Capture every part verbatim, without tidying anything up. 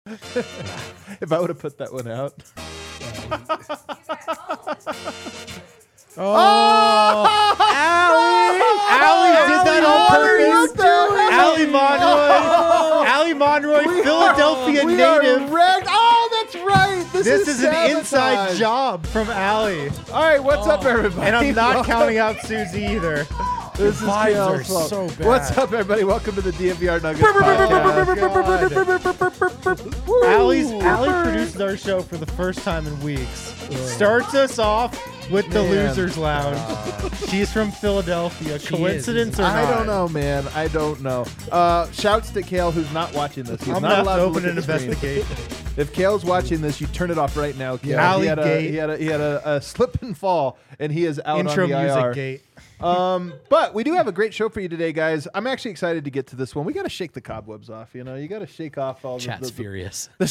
If I would have put that one out. Oh, Allie! Allie did that on purpose. Allie Monroy, Allie Monroy, We Philadelphia are, we native. Are wrecked. Oh, that's right. This, This is, is an sabotage. inside job from Allie, All right, what's up, everybody? and I'm not Welcome. counting out Susie either. This is vibes Kale's are fault. so bad. What's up, everybody? Welcome to the D M V R Nuggets podcast. Woo. Allie's Allie produces our show for the first time in weeks. Starts us off with the Man. Losers Lounge. She's from Philadelphia. She Coincidence is. or I not? don't know, man. I don't know. Uh, shouts to Kale, who's not watching this. He's I'm not gonna allowed have to to open look an at the screen. investigation. If Kale's watching this, you turn it off right now. Kale. Yeah. he had, a, Alley he had a he had a, a slip and fall, and he is out Intro on the music I R. gate. Um, but we do have a great show for you today, guys. I'm actually excited to get to this one. We got to shake the cobwebs off. You know, you got to shake off all Chat's the, the, furious. the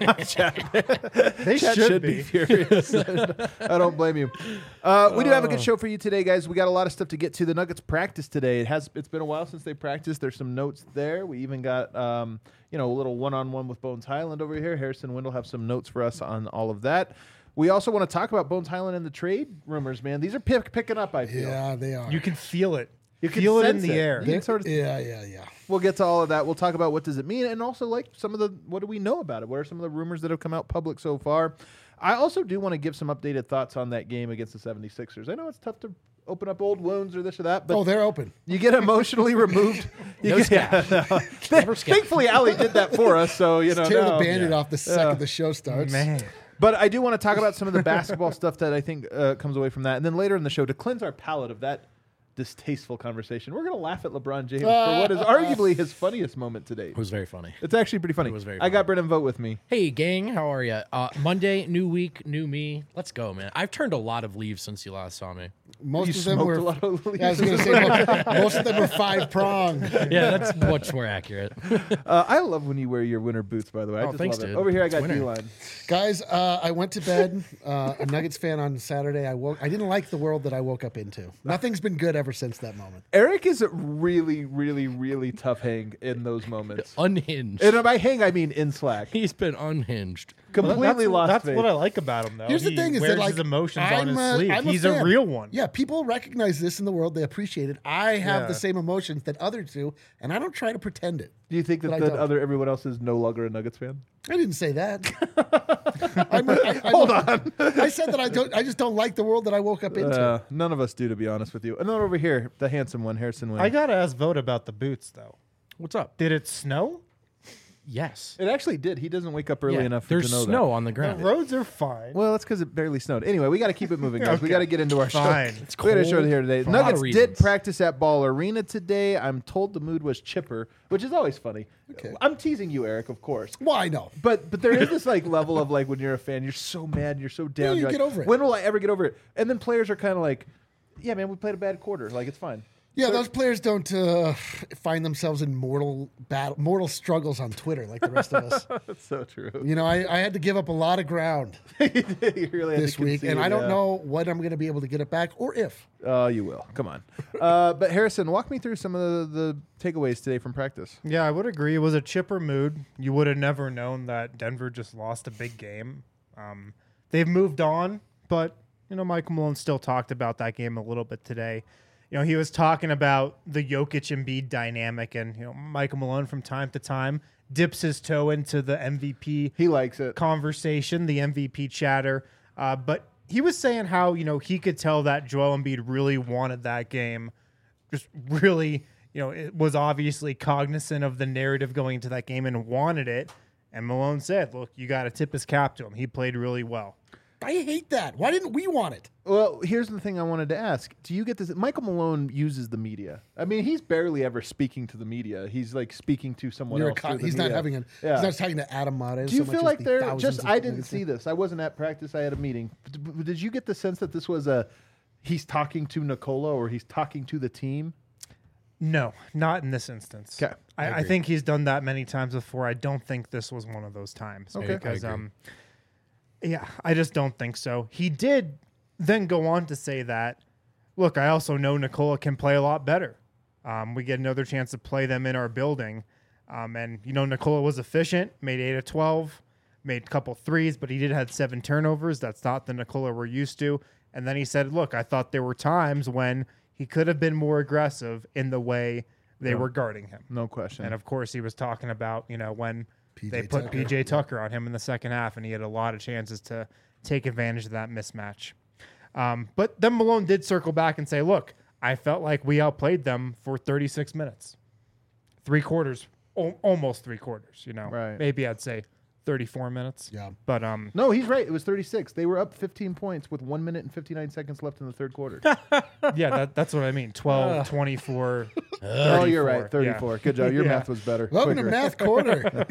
chat. They Chat should, should be. be furious. I don't blame you. Uh, we do have a good show for you today, guys. We got a lot of stuff to get to. The Nuggets practice today. It has. It's been a while since they practiced. There's some notes there. We even got um, you know, a little one-on-one with Bones Highland over here. Harrison Wendell have some notes for us on all of that. We also want to talk about Bones Highland and the trade rumors, man. These are pick, picking up, I feel. Yeah, they are. You can feel it. You can feel it in sense the it. air. You can sort of- yeah, yeah, yeah. We'll get to all of that. We'll talk about what does it mean, and also like some of the what do we know about it? What are some of the rumors that have come out public so far? I also do want to give some updated thoughts on that game against the seventy-sixers. I know it's tough to open up old wounds or this or that, but Oh, they're open. you get emotionally removed. You No get, scab. yeah, no. Never scab. Thankfully, Allie did that for us, so you know. Tear no. the Band-Aid off the second Yeah. the show starts. Man. But I do want to talk about some of the basketball stuff that I think uh, comes away from that, and then later in the show to cleanse our palate of that distasteful conversation, we're going to laugh at LeBron James for what is arguably his funniest moment to date. It was very funny. It's actually pretty funny. It was very I got Brennan Vogt with me. Hey, gang, how are you? Uh, Monday, new week, new me. Let's go, man. I've turned a lot of leaves since you last saw me. Most You of them smoked were. a lot of Yeah, I was going to say most, most of them were five prong. Yeah, that's much more accurate. Uh, I love when you wear your winter boots, by the way. I Oh, just thanks, love it. dude. Over here, I It's got winter. D-line. Guys, uh, I went to bed. Uh, a Nuggets fan on Saturday. I woke. I didn't like the world that I woke up into. Nothing's been good ever since that moment. Eric is a really, really, really tough hang in those moments. Unhinged. And by hang, I mean in Slack. He's been unhinged. Completely that's, lost That's faith. what I like about him, though. Here's the He thing: is wears that like his emotions I'm on his a, sleeve. I'm He's a fan. real one. Yeah, people recognize this in the world. They appreciate it. I have Yeah. the same emotions that others do, and I don't try to pretend it. Do you think that But I the don't. other everyone else is no longer a Nuggets fan? I didn't say that. I'm a, I, I, Hold on. I said that I don't. I just don't like the world that I woke up into. Uh, none of us do, to be honest with you. Another over here, the handsome one, Harrison Wynn. I got to ask Vote about the boots, though. What's up? Did it snow? Yes. It actually did. He doesn't wake up early Yeah, enough There's to know snow that. on the The ground. roads are fine. Well, that's because it barely snowed. Anyway, we got to keep it moving, guys. We Okay. got to get into our Fine. show. It's We got a show cold here today. for a lot of Nuggets did reasons. practice at Ball Arena today. I'm told the mood was chipper, which is always funny. Okay. I'm teasing you, Eric, of course. Well, I know. But but there is this like level of like when you're a fan, you're so mad, you're so down. you you're get like, over it. When will I ever get over it? And then players are kind of like, yeah, man, we played a bad quarter. Like it's fine. Yeah, those players don't uh, find themselves in mortal battle, mortal struggles on Twitter like the rest of us. That's so true. You know, I, I had to give up a lot of ground You really had this to week, concede, and I don't yeah. know when I'm going to be able to get it back or if. Oh, you will. Come on. uh, but Harrison, walk me through some of the, the takeaways today from practice. Yeah, I would agree. It was a chipper mood. You would have never known that Denver just lost a big game. Um, they've moved on, but you know, Michael Malone still talked about that game a little bit today. You know, he was talking about the Jokic Embiid dynamic, and you know, Michael Malone from time to time dips his toe into the M V P He likes it. conversation, the M V P chatter. Uh, but he was saying how, you know, he could tell that Joel Embiid really wanted that game. Just really, you know, it was obviously cognizant of the narrative going into that game and wanted it. And Malone said, look, you got to tip his cap to him. He played really well. I hate that. Why didn't we want it? Well, here's the thing I wanted to ask. Do you get this? Michael Malone uses the media. I mean, he's barely ever speaking to the media. He's like speaking to someone You're a else. con- through the he's not media. having an. Yeah. He's not talking to Adam Mares. Do you so feel much as like the they're thousands just? of I didn't Nuggets see fans. this. I wasn't at practice. I had a meeting. D- d- Did you get the sense that this was a he's talking to Nikola or he's talking to the team? No, not in this instance. 'Kay. I, I I, agree. think he's done that many times before. I don't think this was one of those times. Okay. I Because, agree. um, yeah, I just don't think so. He did then go on to say that, look, I also know Nikola can play a lot better. Um, we get another chance to play them in our building. Um, and, you know, Nikola was efficient, made eight of twelve, made a couple threes, but he did have seven turnovers. That's not the Nikola we're used to. And then he said, look, I thought there were times when he could have been more aggressive in the way they No. were guarding him. No question. And, of course, he was talking about, you know, when P J they put Tucker. P J Tucker on him in the second half, and he had a lot of chances to take advantage of that mismatch. Um, but then Malone did circle back and say, look, I felt like we outplayed them for thirty-six minutes. Three quarters, o- almost three quarters, you know. Right. Maybe I'd say thirty-four minutes. Yeah. But um, No, he's right. It was thirty-six. They were up fifteen points with one minute and fifty-nine seconds left in the third quarter. yeah, that, that's what I mean. twelve, twenty-four, Oh, you're right. thirty-four. Yeah. thirty-four. Good job. Your Yeah. math was better. Welcome to Quicker. Math Corner.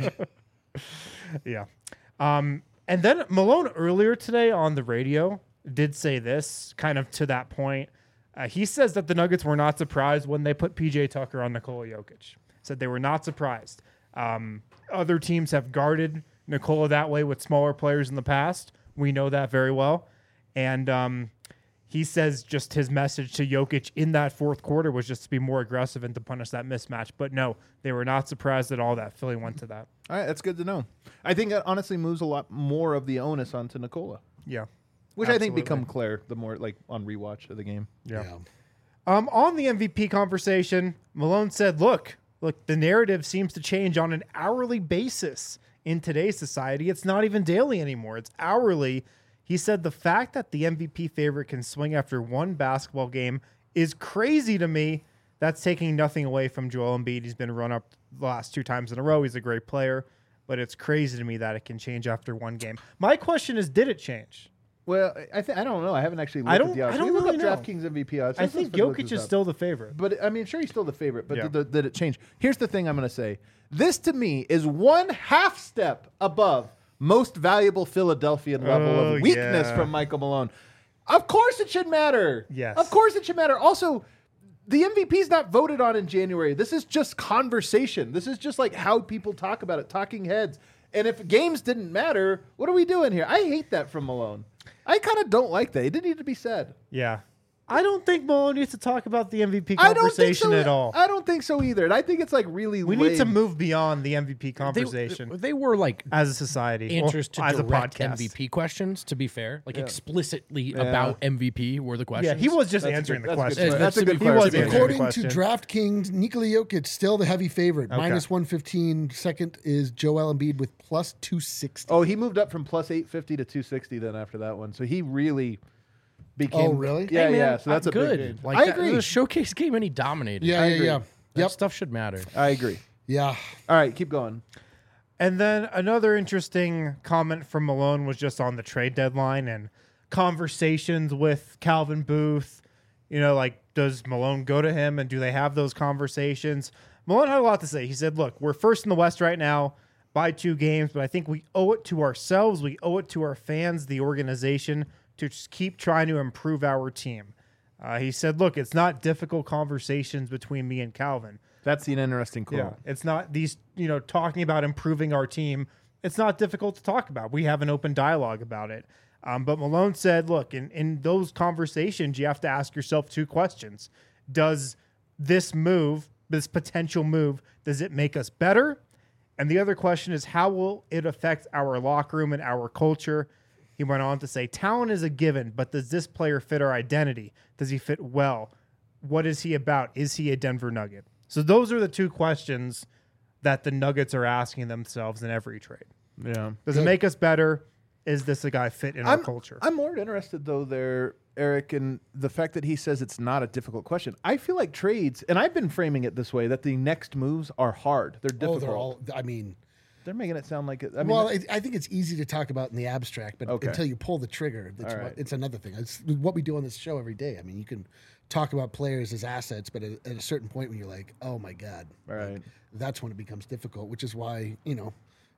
Yeah. Um, and then Malone earlier today on the radio did say this, kind of to that point. Uh, he says that the Nuggets were not surprised when they put P J Tucker on Nikola Jokic. Said they were not surprised. Um, other teams have guarded Nikola that way with smaller players in the past. We know that very well. And um, he says just his message to Jokic in that fourth quarter was just to be more aggressive and to punish that mismatch. But no, they were not surprised at all that Philly went to that. All right, that's good to know. I think that honestly moves a lot more of the onus onto Nikola, Yeah. which I think Absolutely. become clear the more like on rewatch of the game. Yeah. Yeah. Um, on the M V P conversation, Malone said, look, look, the narrative seems to change on an hourly basis in today's society. It's not even daily anymore. It's hourly. He said the fact that the M V P favorite can swing after one basketball game is crazy to me. That's taking nothing away from Joel Embiid. He's been run up the last two times in a row. He's a great player, but it's crazy to me that it can change after one game. My question is, did it change? Well, I th- I don't know. I haven't actually looked I don't- at the odds. I don't Can you really look know. up DraftKings M V P odds. I Let's- think let's look Jokic this is up. still the favorite. But I mean, sure, he's still the favorite. But Yeah. did, the, did it change? Here's the thing I'm going to say. This to me is one half step above most valuable Philadelphian level Oh, of weakness yeah. from Michael Malone. Of course it should matter. Yes. Of course it should matter. Also, the M V P is not voted on in January. This is just conversation. This is just like how people talk about it, talking heads. And if games didn't matter, what are we doing here? I hate that from Malone. I kind of don't like that. It didn't need to be said. Yeah. I don't think Malone needs to talk about the M V P I don't think conversation so at all. I don't think so either. And I think it's like really We need to lame. move beyond the M V P They, conversation they were like as a society, answers or to as a direct podcast. M V P questions. To be fair, like explicitly Yeah. about M V P were the questions. Yeah, he was just That's a answering good- the that's a question. good- That's That's a to good be He was question. answering the According to question. DraftKings, Nikola Jokic still the heavy favorite. Okay. Minus one fifteen. Second is Joel Embiid with plus two sixty. Oh, he moved up from plus eight fifty to two sixty then after that one. So he really became. Oh, really? Yeah, Hey, man, yeah. So that's I'm a good. big. Like I that- agree. The showcase game, and he dominated. Yeah, I yeah, agree. yeah. That Yep. stuff should matter. I agree. Yeah. All right, keep going. And then another interesting comment from Malone was just on the trade deadline and conversations with Calvin Booth. You know, like, does Malone go to him and do they have those conversations? Malone had a lot to say. He said, look, we're first in the West right now by two games, but I think we owe it to ourselves. We owe it to our fans, the organization, to just keep trying to improve our team. Uh, he said, look, it's not difficult conversations between me and Calvin. That's an interesting quote. Yeah, it's not these, you know, talking about improving our team. It's not difficult to talk about. We have an open dialogue about it. Um, but Malone said, look, in, in those conversations, you have to ask yourself two questions. Does this move, this potential move, does it make us better? And the other question is, how will it affect our locker room and our culture? He went on to say, talent is a given, but does this player fit our identity? Does he fit well? What is he about? Is he a Denver Nugget? So those are the two questions that the Nuggets are asking themselves in every trade. Yeah. Does it make us better? Is this a guy fit in our I'm, culture? I'm more interested though there, Eric, in the fact that he says it's not a difficult question. I feel like trades, and I've been framing it this way, that the next moves are hard. They're Oh, difficult. they're all. I mean, They're making it sound like it. I mean, well, it, I think it's easy to talk about in the abstract, but Okay. until you pull the trigger, that's All what, right. it's another thing. It's what we do on this show every day. I mean, you can talk about players as assets, but at, at a certain point when you're like, oh my God, all right. like, that's when it becomes difficult, which is why, you know,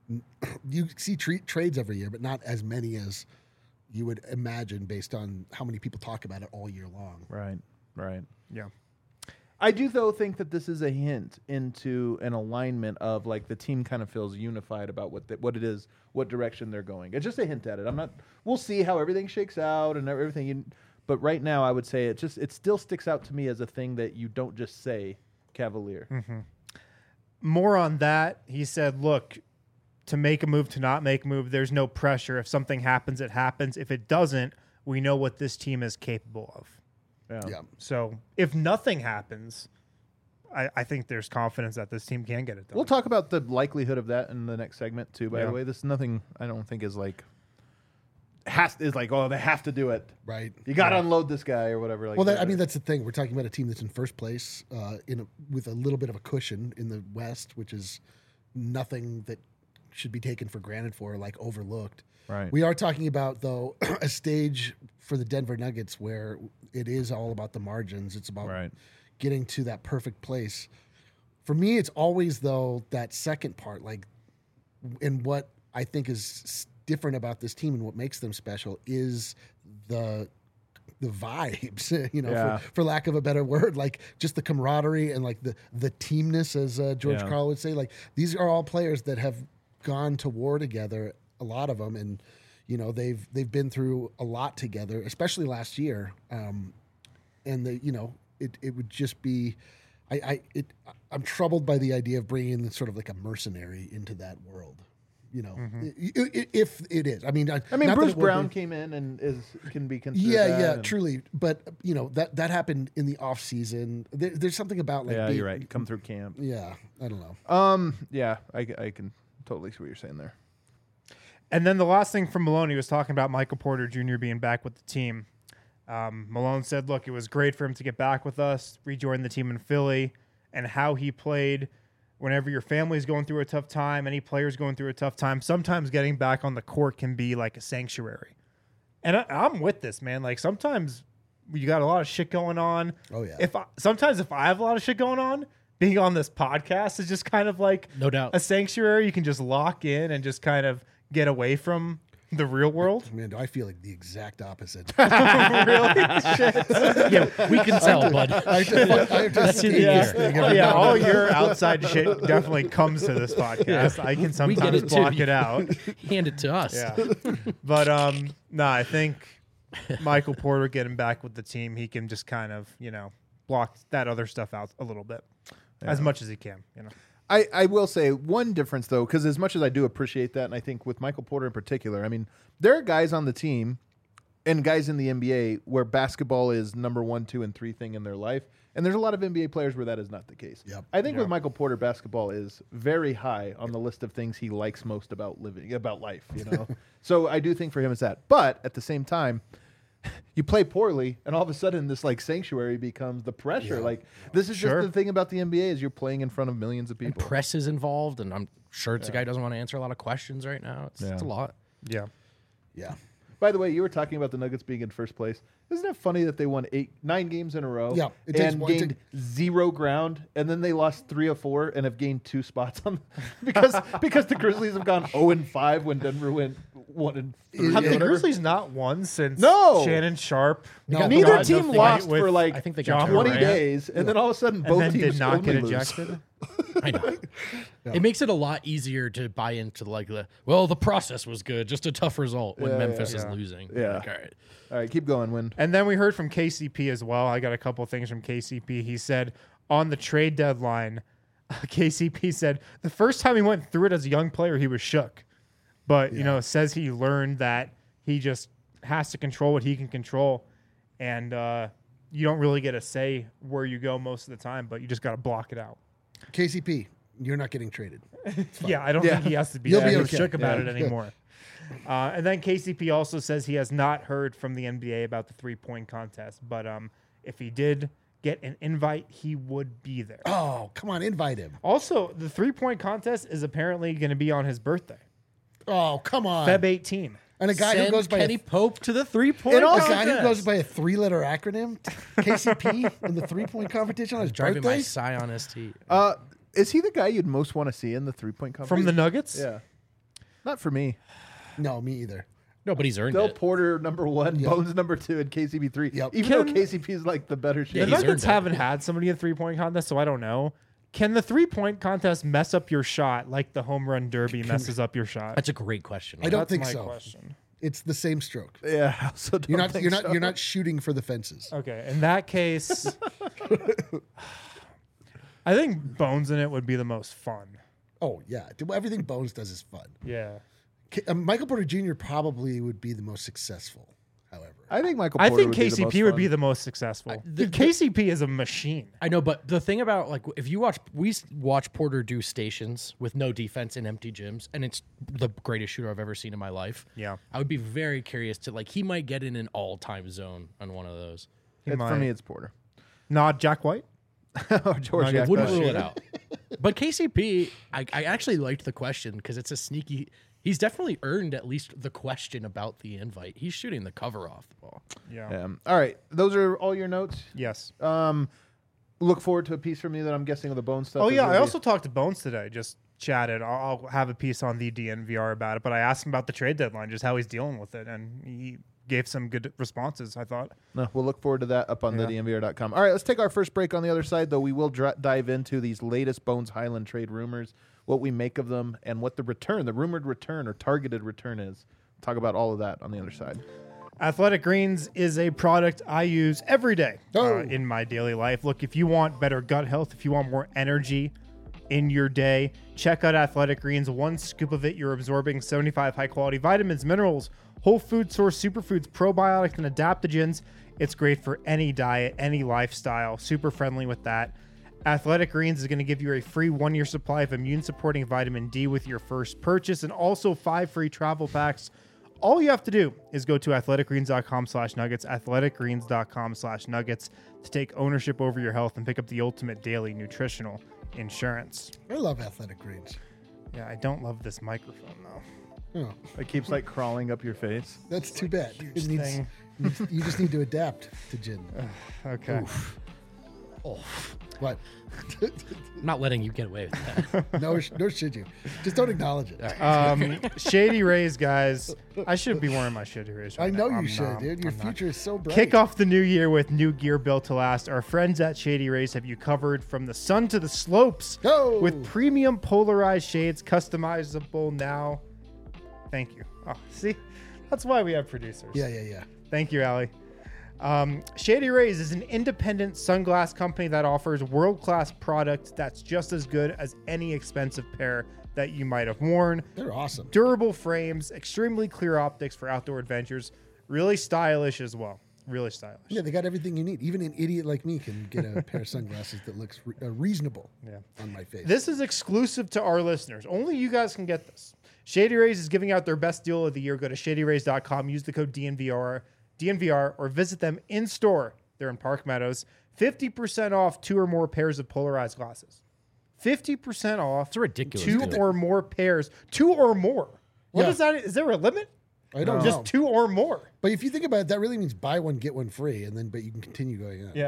you see tre- trades every year, but not as many as you would imagine based on how many people talk about it all year long. Right. Right. yeah. I do though think that this is a hint into an alignment of like the team kind of feels unified about what the, what it is, what direction they're going. It's just a hint at it. I'm not. We'll see how everything shakes out and everything. You, but right now, I would say it just it still sticks out to me as a thing that you don't just say Cavalier. more on that, he said, look, to make a move, to not make a move, there's no pressure. If something happens, it happens. If it doesn't, we know what this team is capable of. Yeah. Yeah. So if nothing happens, I, I think there's confidence that this team can get it done. We'll talk about the likelihood of that in the next segment too. By Yeah. the way, this is nothing I don't think is like has is like oh they have to do it. Right. You got to Yeah. unload this guy or whatever. Like Well, that, that. I mean, that's the thing. We're talking about a team that's in first place uh, in a, with a little bit of a cushion in the West, which is nothing that should be taken for granted for, like overlooked. Right. We are talking about, though, a stage for the Denver Nuggets where it is all about the margins. It's about Right. getting to that perfect place. For me, it's always, though, that second part, like, and what I think is s- different about this team and what makes them special is the the vibes, you know, Yeah. for, for lack of a better word, like just the camaraderie and like the the teamness, as uh, George Yeah. Karl would say. Like these are all players that have gone to war together, a lot of them, and you know they've they've been through a lot together, especially last year. Um, and the you know it it would just be, I I it I'm troubled by the idea of bringing in sort of like a mercenary into that world. You know, I- I- if it is, I mean, I, I mean, not that Bruce it will Brown be. came in and is can be considered. Yeah, that yeah, and- truly. But you know that that happened in the off season. There, there's something about like Yeah, being- you're right. Come through camp. Yeah, I don't know. Um. Yeah, I, I can totally see what you're saying there. And then the last thing from Malone, he was talking about Michael Porter Junior being back with the team. Um, Malone said, look, it was great for him to get back with us, rejoin the team in Philly, and how he played whenever your family's going through a tough time, any player's going through a tough time, sometimes getting back on the court can be like a sanctuary. And I, I'm with this, man. Like sometimes you got a lot of shit going on. Oh, yeah. If I, sometimes if I have a lot of shit going on, being on this podcast is just kind of like No doubt. a sanctuary. You can just lock in and just kind of get away from the real world. Man, do I feel like the exact opposite? Yeah, we can tell, bud. I have to, I have to That's in escape the this air. thing Oh, every yeah, now all and then. your outside shit definitely comes to this podcast. I can We get sometimes it too. block it out. Hand it to us. Yeah. But um no, I think Michael Porter getting back with the team, he can just kind of, you know, block that other stuff out a little bit. As much as he can, you know. I, I will say one difference though, because as much as I do appreciate that, and I think with Michael Porter in particular, I mean, there are guys on the team and guys in the N B A where basketball is number one, two, and three thing in their life, and there's a lot of N B A players where that is not the case. Yep. I think Yeah. with Michael Porter, basketball is very high on the list of things he likes most about living, about life. You know, so I do think for him it's that. But at the same time, you play poorly, and all of a sudden, this like sanctuary becomes the pressure. Yeah. Like this is Sure. just the thing about the N B A is you're playing in front of millions of people. Press is involved, and I'm sure it's a guy who doesn't want to answer a lot of questions right now. It's, it's a Yeah. lot. Yeah. Yeah. By the way, you were talking about the Nuggets being in first place. Isn't it funny that they won eight, nine games in a row? Yeah, it takes and one- it gained zero ground, and then they lost three or four and have gained two spots on because because the Grizzlies have gone zero and five when Denver went one and three. Have or the whatever. Grizzlies not won since No. Shannon Sharp? No. got Neither brought team into the lost fight with- for like I think they got John twenty Morant, days, and then all of a sudden and both then teams did not only get lose. ejected. I know. It makes it a lot easier to buy into like the well, the process was good, just a tough result when Yeah, Memphis yeah. is Yeah. losing. Yeah. Like, all right. All right, keep going. Win. And then we heard from K C P as well. I got a couple things from K C P. He said on the trade deadline, K C P said the first time he went through it as a young player, he was shook. But, you know, says he learned that he just has to control what he can control. And uh, you don't really get a say where you go most of the time, but you just got to block it out. K C P, you're not getting traded. Yeah, I don't Yeah. think he has to be You'll that be he's okay. shook about Yeah. it anymore. Uh, and then K C P also says he has not heard from the N B A about the three-point contest, but um, if he did get an invite, he would be there. Oh, come on, invite him. Also, the three-point contest is apparently going to be on his birthday, Oh, come on. February eighteenth. And a guy Send who goes by Kenny a, Pope to the three point. And a also- guy who goes by a three-letter acronym, K C P, in the three-point competition on his driving my birthday. Scion S T. Uh, is he the guy you'd most want to see in the three point competition? From the Nuggets? Yeah. Not for me. No, me either. No, but he's earned Del it. Porter number one, Yep. Bones number two, and K C P three. Yep. Even Can- though K C P is like the better Yeah, shit. The he's Nuggets earned it. haven't had somebody in three-point contest, so I don't know. Can the three-point contest mess up your shot like the home run derby messes up your shot? That's a great question. I don't That's think my so. question. It's the same stroke. Yeah, I also don't You're not. think You're not. so. You're not shooting for the fences. Okay, in that case, I think Bones in it would be the most fun. Oh yeah, everything Bones does is fun. Yeah. K- uh, Michael Porter Junior probably would be the most successful. However, I think Michael. I Porter think would be the K C P most would fun. be the most successful. I- the- Dude, K C P is a machine. I know, but the thing about like if you watch, we s- watch Porter do stations with no defense in empty gyms, and it's the greatest shooter I've ever seen in my life. Yeah. I would be very curious to like he might get in an all-time zone on one of those. He It's, for might. me, it's Porter. Not Jack White. or George. Nuggets. Jack Wouldn't Bush. rule it out. But K C P, I, I actually liked the question because it's a sneaky. He's definitely earned at least the question about the invite. He's shooting the cover off the ball. Yeah. Um, all right, those are all your notes. Yes. Um, look forward to a piece from you that I'm guessing of the bone stuff. Oh is yeah, gonna I be- also talked to Bones today. Just chatted. I'll, I'll have a piece on the D N V R about it, but I asked him about the trade deadline, just how he's dealing with it, and he gave some good responses. I thought. No, we'll look forward to that up on Yeah. the D N V R dot com. All right, let's take our first break on the other side, though. We will dr- dive into these latest Bones Highland trade rumors, what we make of them, and what the return, the rumored return or targeted return is. Talk about all of that on the other side. Athletic Greens is a product I use every day Oh. uh, in my daily life. Look, if you want better gut health, if you want more energy in your day, check out Athletic Greens. One scoop of it, you're absorbing seventy-five high-quality vitamins, minerals, whole food source superfoods, probiotics, and adaptogens. It's great for any diet, any lifestyle. Super friendly with that. Athletic Greens is going to give you a free one-year supply of immune-supporting vitamin D with your first purchase, and also five free travel packs. All you have to do is go to athleticgreens.com slash nuggets, athleticgreens.com slash nuggets to take ownership over your health and pick up the ultimate daily nutritional insurance. I love Athletic Greens. Yeah, I don't love this microphone, though. Oh, It keeps like crawling up your face. that's too bad. huge It needs, thing. needs- you just need to adapt to gin. Okay. Oh, What? I'm not letting you get away with that. No, sh- nor should you. Just don't acknowledge it. Um, Shady Rays, guys. I should be wearing my Shady Rays right I know now. you I'm should, not. dude. Your I'm not. future is so bright. Kick off the new year with new gear built to last. Our friends at Shady Rays have you covered from the sun to the slopes Go! with premium polarized shades, customizable now. Thank you. Oh, see, that's why we have producers. Yeah, yeah, yeah. Thank you, Allie. Um, Shady Rays is an independent sunglass company that offers world-class product that's just as good as any expensive pair that you might have worn. They're awesome. Durable frames, extremely clear optics for outdoor adventures, really stylish as well. Really stylish. Yeah, they got everything you need. Even an idiot like me can get a pair of sunglasses that looks re- uh, reasonable Yeah. on my face. This is exclusive to our listeners. Only you guys can get this. Shady Rays is giving out their best deal of the year. Go to shady rays dot com, use the code D N V R, D N V R, or visit them in store. They're in Park Meadows. fifty percent off two or more pairs of polarized glasses. fifty percent off. It's a ridiculous Two deal. or more pairs. Two or more. What Yeah. is that? Is there a limit? I don't Just know. two or more. But if you think about it, that really means buy one, get one free, and then but you can continue going up. Yeah.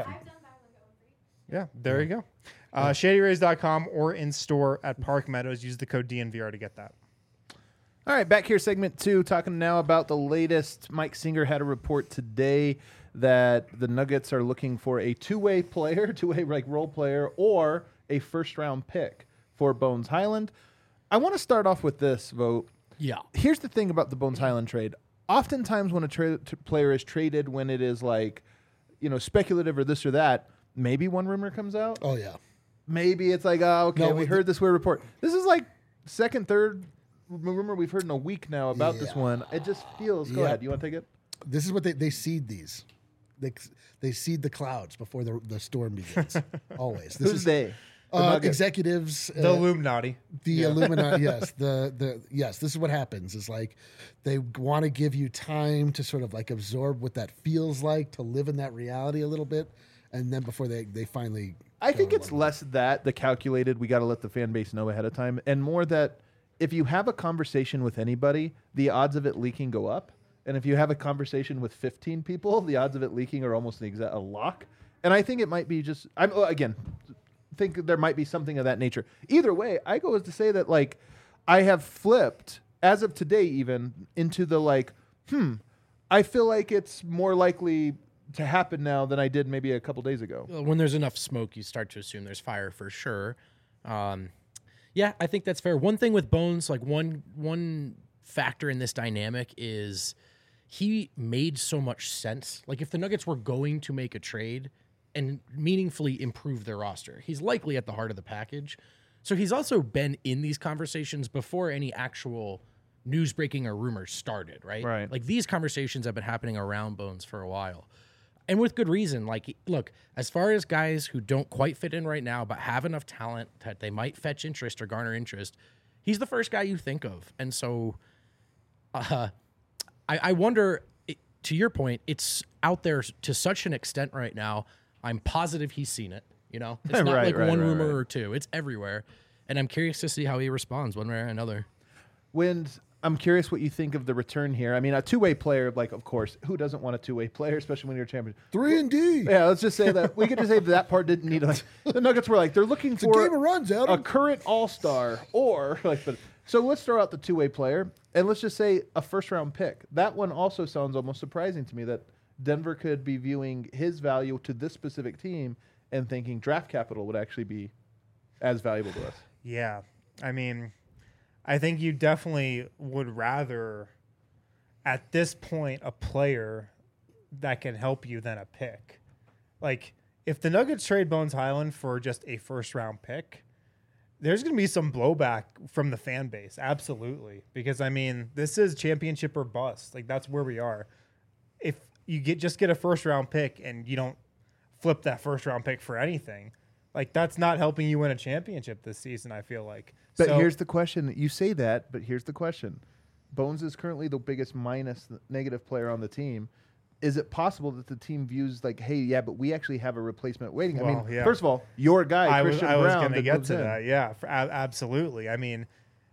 Yeah, there you go. Uh, shady rays dot com or in store at Park Meadows. Use the code D N V R to get that. All right, back here, segment two, talking now about the latest. Mike Singer had a report today that the Nuggets are looking for a two-way player, two-way like role player, or a first-round pick for Bones Highland. I want to start off with this, Vote. Yeah. Here's the thing about the Bones Highland trade. Oftentimes when a tra- t- player is traded, when it is like, you know, speculative or this or that, maybe one rumor comes out. Oh yeah. Maybe it's like, oh, okay, No, we with heard the- this weird report. This is like second, third rumor we've heard in a week now about this Yeah. one. It just feels. Go Yeah. ahead. You want to take it? This is what they they seed these. They they seed the clouds before the the storm begins. Always. This Who's is, they? The Uh, Nuggets. executives. The uh, Illuminati. The Illuminati, yes. The the yes, this is what happens. Is like they want to give you time to sort of like absorb what that feels like, to live in that reality a little bit, and then before they they finally. I go think it's along. less that the calculated. We got to let the fan base know ahead of time, and more that if you have a conversation with anybody, the odds of it leaking go up. And if you have a conversation with fifteen people, the odds of it leaking are almost an exact a lock. And I think it might be just. I'm oh, again. Think there might be something of that nature. Either way, I go as to say that like I have flipped as of today even into the like, hmm, I feel like it's more likely to happen now than I did maybe a couple days ago. When there's enough smoke, you start to assume there's fire for sure. Um, yeah, I think that's fair. One thing with Bones, like one one factor in this dynamic is he made so much sense. Like if the Nuggets were going to make a trade, and meaningfully improve their roster. He's likely at the heart of the package. So he's also been in these conversations before any actual news breaking or rumors started, right? Right. Like these conversations have been happening around Bones for a while. And with good reason. Like, look, as far as guys who don't quite fit in right now, but have enough talent that they might fetch interest or garner interest, he's the first guy you think of. And so uh, I, I wonder, it, to your point, it's out there to such an extent right now. I'm positive he's seen it. You know, it's not Right, like right, one right, rumor right. or two. It's everywhere. And I'm curious to see how he responds one way or another. When I'm curious what you think of the return here. I mean, a two-way player, like, of course, who doesn't want a two-way player, especially when you're a champion? Three and D. Yeah, let's just say that we could just say that, that part didn't need. Like, the Nuggets were like they're looking It's a for game of runs, Adam. a current All-Star or like. But so let's throw out the two-way player and let's just say a first-round pick. That one also sounds almost surprising to me that Denver could be viewing his value to this specific team and thinking draft capital would actually be as valuable to us. Yeah. I mean, I think you definitely would rather, at this point, a player that can help you than a pick. Like, if the Nuggets trade Bones Highland for just a first-round pick, there's going to be some blowback from the fan base. Absolutely. Because, I mean, this is championship or bust. Like, that's where we are. If you get just get a first-round pick and you don't flip that first-round pick for anything, like, that's not helping you win a championship this season, I feel like. But So- here's the question. You say that, but here's the question. Bones is currently the biggest minus negative player on the team. Is it possible that the team views like, hey, yeah, but we actually have a replacement waiting? I Well, mean, yeah. first of all, your guy, I was, Christian I was Brown, going to that get moves to in. that. Yeah, for, a- absolutely. I mean,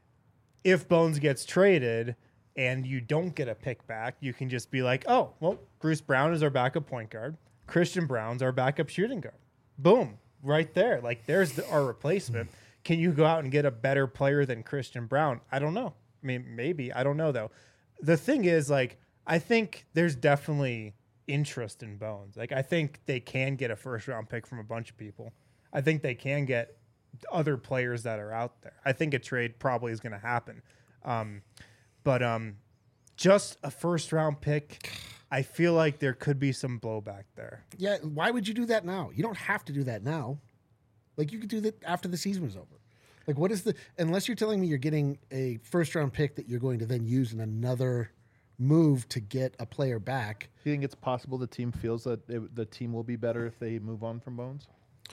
if Bones gets traded and you don't get a pick back, you can just be like, oh, well, Bruce Brown is our backup point guard. Christian Brown's our backup shooting guard. Boom, right there. Like, there's the, our replacement. Can you go out and get a better player than Christian Brown? I don't know. I mean, maybe. I don't know, though. The thing is, like, I think there's definitely interest in Bones. Like, I think they can get a first round pick from a bunch of people. I think they can get other players that are out there. I think a trade probably is going to happen. Um, but um, just a first round pick, I feel like there could be some blowback there. Yeah, why would you do that now? You don't have to do that now. Like, you could do that after the season was over. Like, what is the, unless you're telling me you're getting a first round pick that you're going to then use in another move to get a player back. Do you think it's possible the team feels that it, the team will be better if they move on from Bones?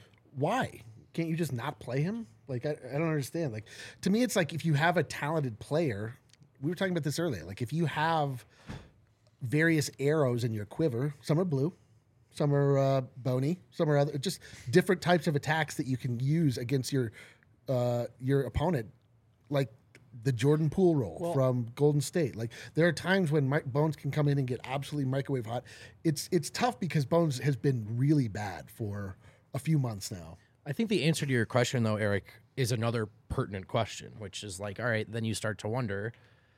Why? Can't you just not play him? Like, I, I don't understand. Like, to me, it's like if you have a talented player, we were talking about this earlier. Like, if you have various arrows in your quiver, some are blue, some are uh, bony, some are other, just different types of attacks that you can use against your uh, your opponent, like the Jordan Poole role Well- from Golden State. Like, there are times when Mike Bones can come in and get absolutely microwave hot. It's it's tough because Bones has been really bad for a few months now. I think the answer to your question, though, Eric, is another pertinent question, which is like, all right, then you start to wonder,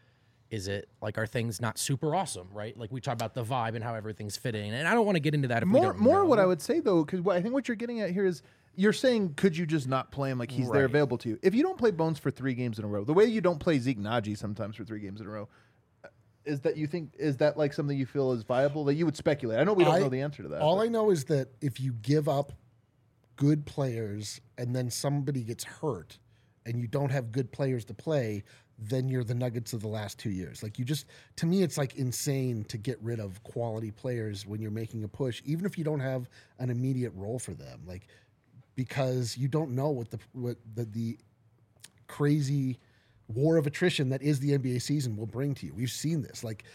is it like, are things not super awesome, right? Like, we talk about the vibe and how everything's fitting, and I don't want to get into that if we More, don't more know. what I would say, though, because I think what you're getting at here is you're saying, could you just not play him like he's there Right. available to you? If you don't play Bones for three games in a row, the way you don't play Zeke Naji sometimes for three games in a row, is that you think, is that like something you feel is viable that you would speculate? I know we don't I- know the answer to that. All but- I know is that if you give up good players and then somebody gets hurt and you don't have good players to play, then you're the Nuggets of the last two years. Like, you just, to me, it's like insane to get rid of quality players when you're making a push, even if you don't have an immediate role for them. Like, because you don't know what the what the, the crazy war of attrition that is the N B A season will bring to you. We've seen this. Like,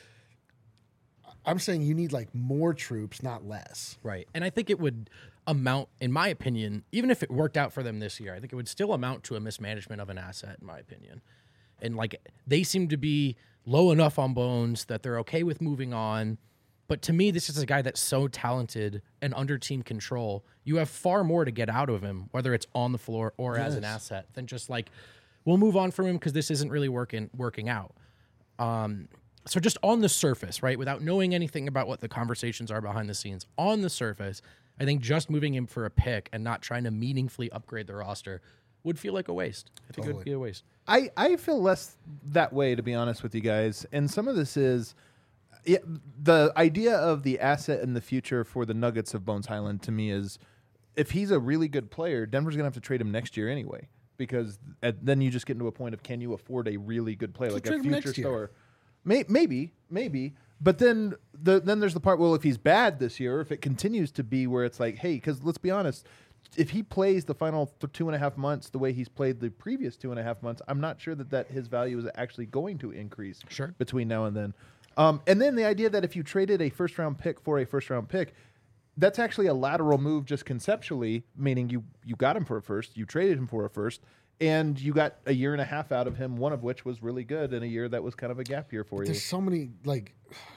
I'm saying you need like more troops, not less. Right. And I think it would amount, in my opinion, even if it worked out for them this year, I think it would still amount to a mismanagement of an asset, in my opinion. And like, they seem to be low enough on Bones that they're okay with moving on. But to me, this is a guy that's so talented and under team control. You have far more to get out of him, whether it's on the floor or as an Yes. asset, than just like, we'll move on from him because this isn't really working working out. Um, so just on the surface, right, without knowing anything about what the conversations are behind the scenes, on the surface, I think just moving him for a pick and not trying to meaningfully upgrade the roster would feel like a waste. I think it would Totally. be a waste. I, I feel less that way, to be honest with you guys. And some of this is, yeah, the idea of the asset in the future for the Nuggets of Bones Highland to me is, if he's a really good player, Denver's gonna have to trade him next year anyway, because at, then you just get into a point of, can you afford a really good player, So like a trade him future next year. star? May, maybe, maybe. But then the then there's the part, well, if he's bad this year, if it continues to be where it's like, hey, because let's be honest, if he plays the final th- two and a half months the way he's played the previous two and a half months, I'm not sure that, that his value is actually going to increase Sure. between now and then. Um, and then the idea that if you traded a first round pick for a first round pick, that's actually a lateral move just conceptually, meaning you you got him for a first, you traded him for a first, and you got a year and a half out of him, one of which was really good, and a year that was kind of a gap year for you. There's so many like.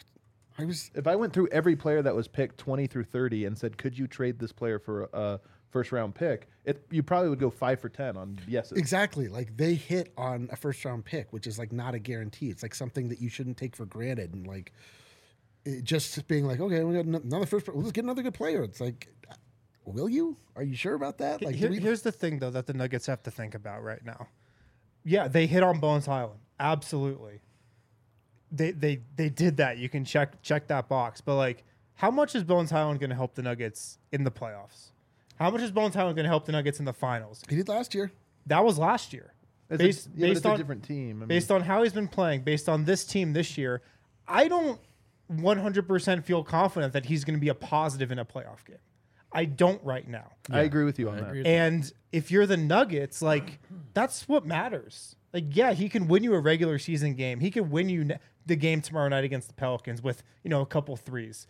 I was If I went through every player that was picked twenty through thirty and said, could you trade this player for a first round pick, it you probably would go five for ten on yeses. exactly like they hit on a first round pick, which is like not a guarantee. It's like something that you shouldn't take for granted, and like it just being like, okay, we got an- another first. Let's get another good player. It's like, will you? Are you sure about that? Like, Here- do we- here's the thing, though, that the Nuggets have to think about right now. Yeah, they hit on Bones Highland. Absolutely. They they they did that. You can check check that box. But like, how much is Bones Highland going to help the Nuggets in the playoffs? How much is Bones Highland going to help the Nuggets in the finals? he did last year. That was last year. It's, Based, a, yeah, but based it's on a different team. I mean, based on how he's been playing, based on this team this year, I don't one hundred percent feel confident that he's going to be a positive in a playoff game. I don't right now. I agree with you on I that. agree with And if you're the Nuggets, like, that's what matters. Like, yeah, he can win you a regular season game. He can win you ne- the game tomorrow night against the Pelicans with, you know, a couple threes.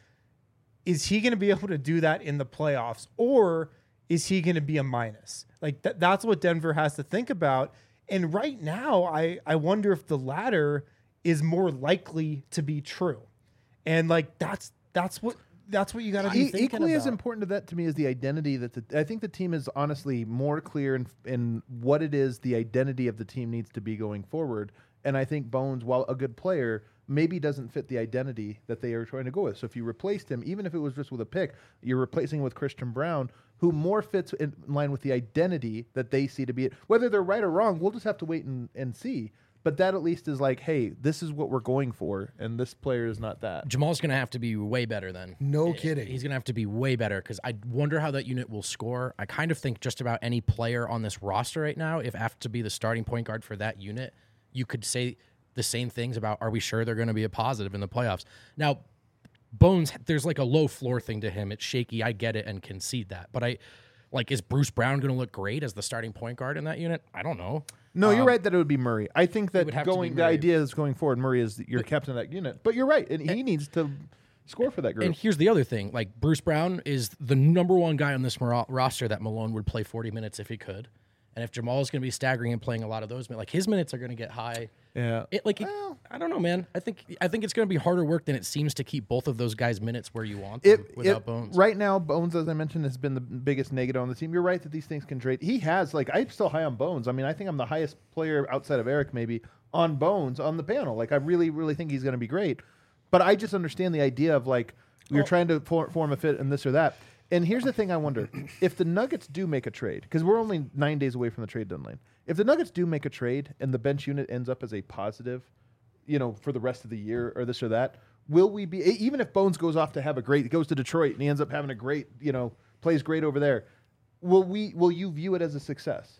Is he going to be able to do that in the playoffs, or is he going to be a minus? Like, th- that's what Denver has to think about. And right now, I, I wonder if the latter is more likely to be true. And like, that's that's what that's what you got to be E- thinking equally as about. important to that to me is the identity that the, I think the team is honestly more clear in, in what it is the identity of the team needs to be going forward. And I think Bones, while a good player, maybe doesn't fit the identity that they are trying to go with. So if you replaced him, even if it was just with a pick, you're replacing with Christian Brown, who more fits in line with the identity that they see to be it. Whether they're right or wrong, we'll just have to wait and, and see. But that at least is like, hey, this is what we're going for, and this player is not that. Jamal's going to have to be way better then. No Eh, kidding. He's going to have to be way better because I wonder how that unit will score. I kind of think just about any player on this roster right now, if have to be the starting point guard for that unit, you could say the same things about, are we sure they're going to be a positive in the playoffs? Now, Bones, there's like a low floor thing to him. It's shaky. I get it and concede that. But I, like, is Bruce Brown going to look great as the starting point guard in that unit? I don't know. No, you're right that it would be Murray. I think that would have to be going the Murray. idea is going forward, Murray is your captain of that unit. But you're right, and he needs to score for that group. And here's the other thing: like Bruce Brown is the number one guy on this ro- roster that Malone would play forty minutes if he could, and if Jamal is going to be staggering and playing a lot of those minutes, like his minutes are going to get high. yeah, It like it, I don't know, man. I think I think it's going to be harder work than it seems to keep both of those guys' minutes where you want them It, without it- Bones. right now, Bones, as I mentioned, has been the biggest negative on the team. You're right that these things can trade. He has, like, I'm still high on Bones. I mean, I think I'm the highest player outside of Eric, maybe, on Bones on the panel. Like, I really, really think he's going to be great. But I just understand the idea of, like, you're trying to for, form a fit and this or that. And here's the thing I wonder. If the Nuggets do make a trade, because we're only nine days away from the trade deadline, if the Nuggets do make a trade and the bench unit ends up as a positive, you know, for the rest of the year or this or that, will we be, e- even if Bones goes off to have a great, goes to Detroit and he ends up having a great, you know, plays great over there, will we, will you view it as a success?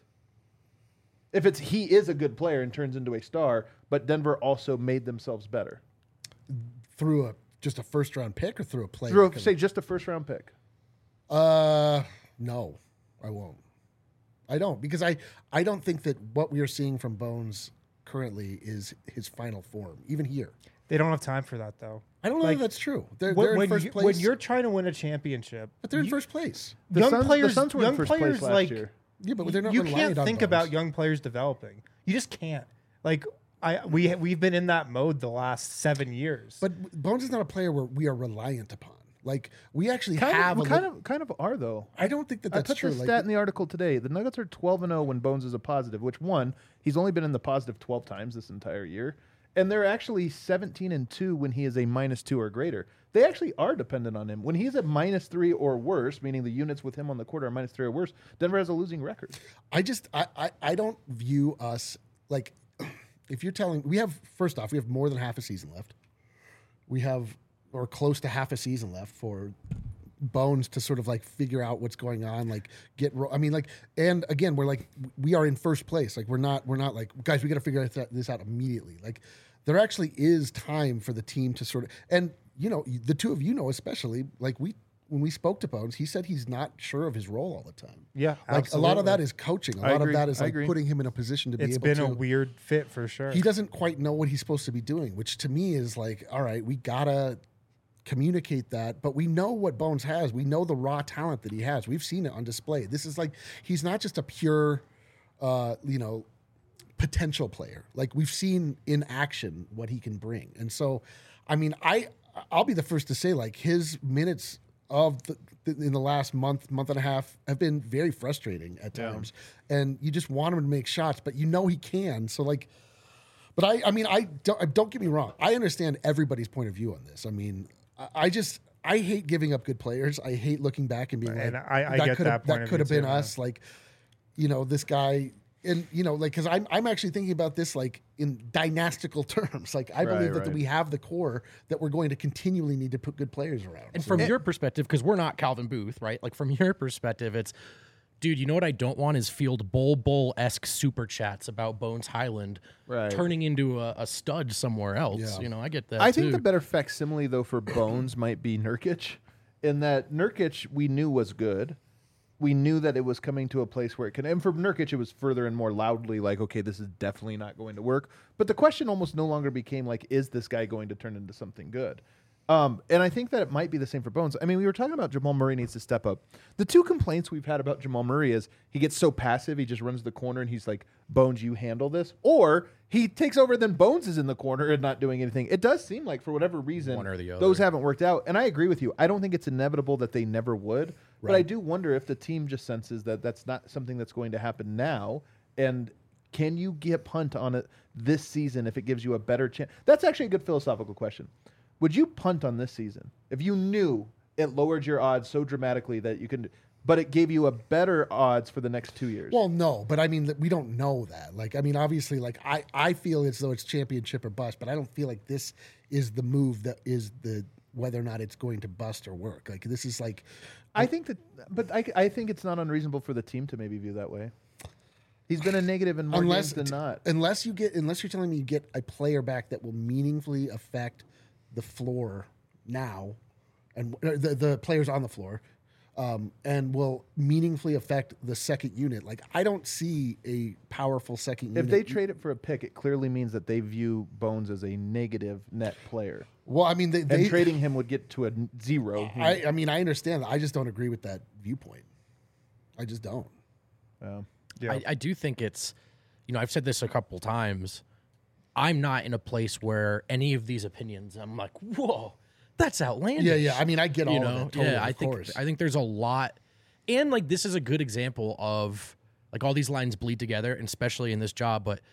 If it's, he is a good player and turns into a star, but Denver also made themselves better. Through a just a first round pick or through a player? Through, a- coming- say, just a first round pick. Uh, no, I won't. I don't because I I don't think that what we are seeing from Bones currently is his final form, even here. They don't have time for that, though. I don't know Like, if that's true. They're, When, they're in when first you, place. when you're trying to win a championship, but they're in you- first place. The young Suns, players, the Suns were young in first players place last like year. Yeah, but they're not. you reliant can't on think Bones. about young players developing. You just can't. Like I, we we've been in that mode the last seven years. But Bones is not a player where we are reliant upon. Like we actually Kind have. of, a kind li- of, kind of are though. I don't think that I that's put true. the Like, stat in the article today. The Nuggets are twelve and zero when Bones is a positive. Which one? He's only been in the positive twelve times this entire year, and they're actually seventeen and two when he is a minus two or greater. They actually are dependent on him when he's at minus three or worse, meaning the units with him on the court are minus three or worse. Denver has a losing record. I just I, I I don't view us like if you're telling we have first off we have more than half a season left. we have or close to half a season left for Bones to sort of like figure out what's going on, like get. Ro- I mean, like, and again, we're like we are in first place. Like we're not we're not like guys. We got to figure this out immediately. Like there actually is time for the team to sort of and you know the two of you know especially like we. When we spoke to Bones, he said he's not sure of his role all the time. Yeah, like absolutely. a lot of that is coaching. A I lot agree. of that is I like agree. putting him in a position to be It's able been to. a weird fit for sure. He doesn't quite know what he's supposed to be doing, which to me is like, all right, we gotta communicate that. But we know what Bones has. We know the raw talent that he has. We've seen it on display. This is like he's not just a pure, uh, you know, potential player. Like we've seen in action what he can bring. And so, I mean, I I'll be the first to say like his minutes of the, in the last month, month and a half have been very frustrating at times. Yeah. And you just want him to make shots, but you know he can. So like, but I, I mean, I don't, don't get me wrong. I understand everybody's point of view on this. I mean, I, I just, I hate giving up good players. I hate looking back and being and like, I, I that get could that have, point that of could have view been too, us. Like, you know, this guy, and you know, like, because I'm I'm actually thinking about this like in dynastical terms. Like, I Right, believe that, right. that we have the core that we're going to continually need to put good players around. And So- from your perspective, because we're not Calvin Booth, right? Like from your perspective, it's, dude, you know what I don't want is field Bull Bull esque super chats about Bones Highland Right. turning into a, a stud somewhere else. Yeah. You know, I get that. I think too. the better facsimile though for Bones might be Nurkic, in that Nurkic we knew was good. We knew that it was coming to a place where it can. And for Nurkic, it was further and more loudly like, okay, this is definitely not going to work. But the question almost no longer became like, is this guy going to turn into something good? Um, and I think that it might be the same for Bones. I mean, we were talking about Jamal Murray needs to step up. The two complaints we've had about Jamal Murray is he gets so passive, he just runs the corner and he's like, Bones, you handle this. Or he takes over, then Bones is in the corner and not doing anything. It does seem like for whatever reason, One or the those other. haven't worked out. And I agree with you. I don't think it's inevitable that they never would. But I do wonder if the team just senses that that's not something that's going to happen now. And can you get punt on it this season if it gives you a better chance? That's actually a good philosophical question. Would you punt on this season if you knew it lowered your odds so dramatically that you can, but it gave you a better odds for the next two years? Well, no, but I mean, we don't know that. Like, I mean, obviously, like I, I feel as though it's championship or bust, but I don't feel like this is the move that is the whether or not it's going to bust or work. Like, this is like, I think that, but I, I think it's not unreasonable for the team to maybe view that way. He's been a negative in more unless games than not. unless you get unless you're telling me you get a player back that will meaningfully affect the floor now, and uh, the the players on the floor, um, and will meaningfully affect the second unit. Like, I don't see a powerful second unit. If they trade it for a pick, it clearly means that they view Bones as a negative net player. well, I mean, they, And they trading him would get to a n- zero. I, I mean, I understand that. I just don't agree with that viewpoint. I just don't. Um, Yeah. I, I do think it's, you know, I've said this a couple times. I'm not in a place where any of these opinions, I'm like, whoa, that's outlandish. Yeah, yeah. I mean, I get all you of know, that. Totally, yeah. I of think course. I think there's a lot, and like this is a good example of like all these lines bleed together, and especially in this job. But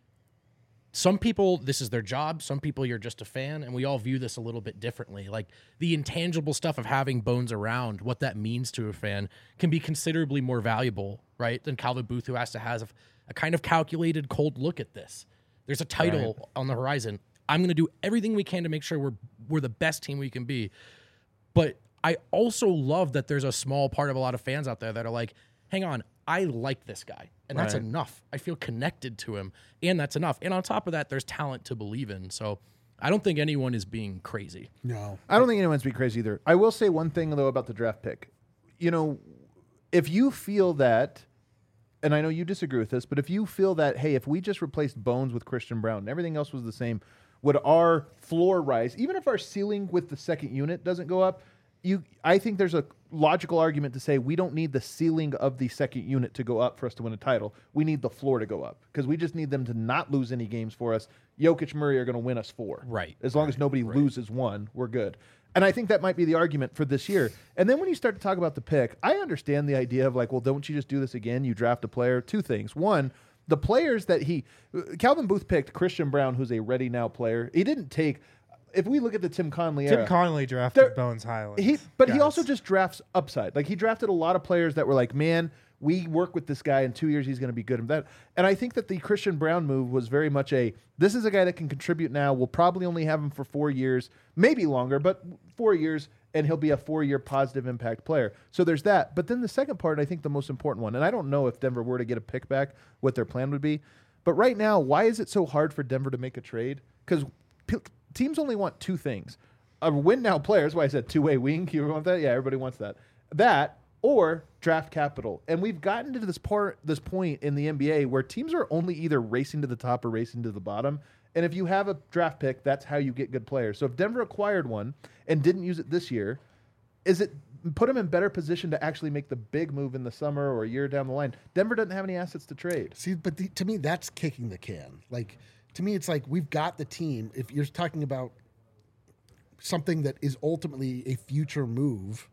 some people, this is their job. Some people, you're just a fan, and we all view this a little bit differently. Like the intangible stuff of having Bones around, what that means to a fan, can be considerably more valuable, right, than Calvin Booth, who has to have a kind of calculated, cold look at this. There's a title Right. on the horizon. I'm going to do everything we can to make sure we're we're the best team we can be. But I also love that there's a small part of a lot of fans out there that are like, hang on, I like this guy. And that's Right. enough. I feel connected to him. And that's enough. And on top of that, there's talent to believe in. So I don't think anyone is being crazy. No. I don't think anyone's be crazy either. I will say one thing though about the draft pick. You know, if you feel that, and I know you disagree with this, but if you feel that, hey, if we just replaced Bones with Christian Brown and everything else was the same, would our floor rise? Even if our ceiling with the second unit doesn't go up, you, I think there's a logical argument to say we don't need the ceiling of the second unit to go up for us to win a title. We need the floor to go up because we just need them to not lose any games for us. Jokic, Murray are going to win us four. Right. As long as nobody loses one, we're good. And I think that might be the argument for this year. And then when you start to talk about the pick, I understand the idea of like, well, don't you just do this again? You draft a player. Two things. One, the players that he, Calvin Booth picked Christian Brown, who's a ready now player. He didn't take, if we look at the Tim Conley Tim era, Conley drafted There- Bones Highland. he, but he guys. also just drafts upside. Like he drafted a lot of players that were like, man, we work with this guy in two years, he's going to be good. And that, and I think that the Christian Braun move was very much a, this is a guy that can contribute now. We'll probably only have him for four years, maybe longer, but four years, and he'll be a four-year positive impact player. So there's that. But then the second part, I think the most important one, and I don't know if Denver were to get a pick back, what their plan would be. But right now, why is it so hard for Denver to make a trade? Because p- teams only want two things. A win-now player, that's why I said two-way wing. You want that? Yeah, everybody wants that. That or draft capital. And we've gotten to this part, this point in the N B A where teams are only either racing to the top or racing to the bottom. And if you have a draft pick, that's how you get good players. So if Denver acquired one and didn't use it this year, is it put them in better position to actually make the big move in the summer or a year down the line? Denver doesn't have any assets to trade. See, but the, to me, that's kicking the can. Like, to me, it's like we've got the team. If you're talking about something that is ultimately a future move,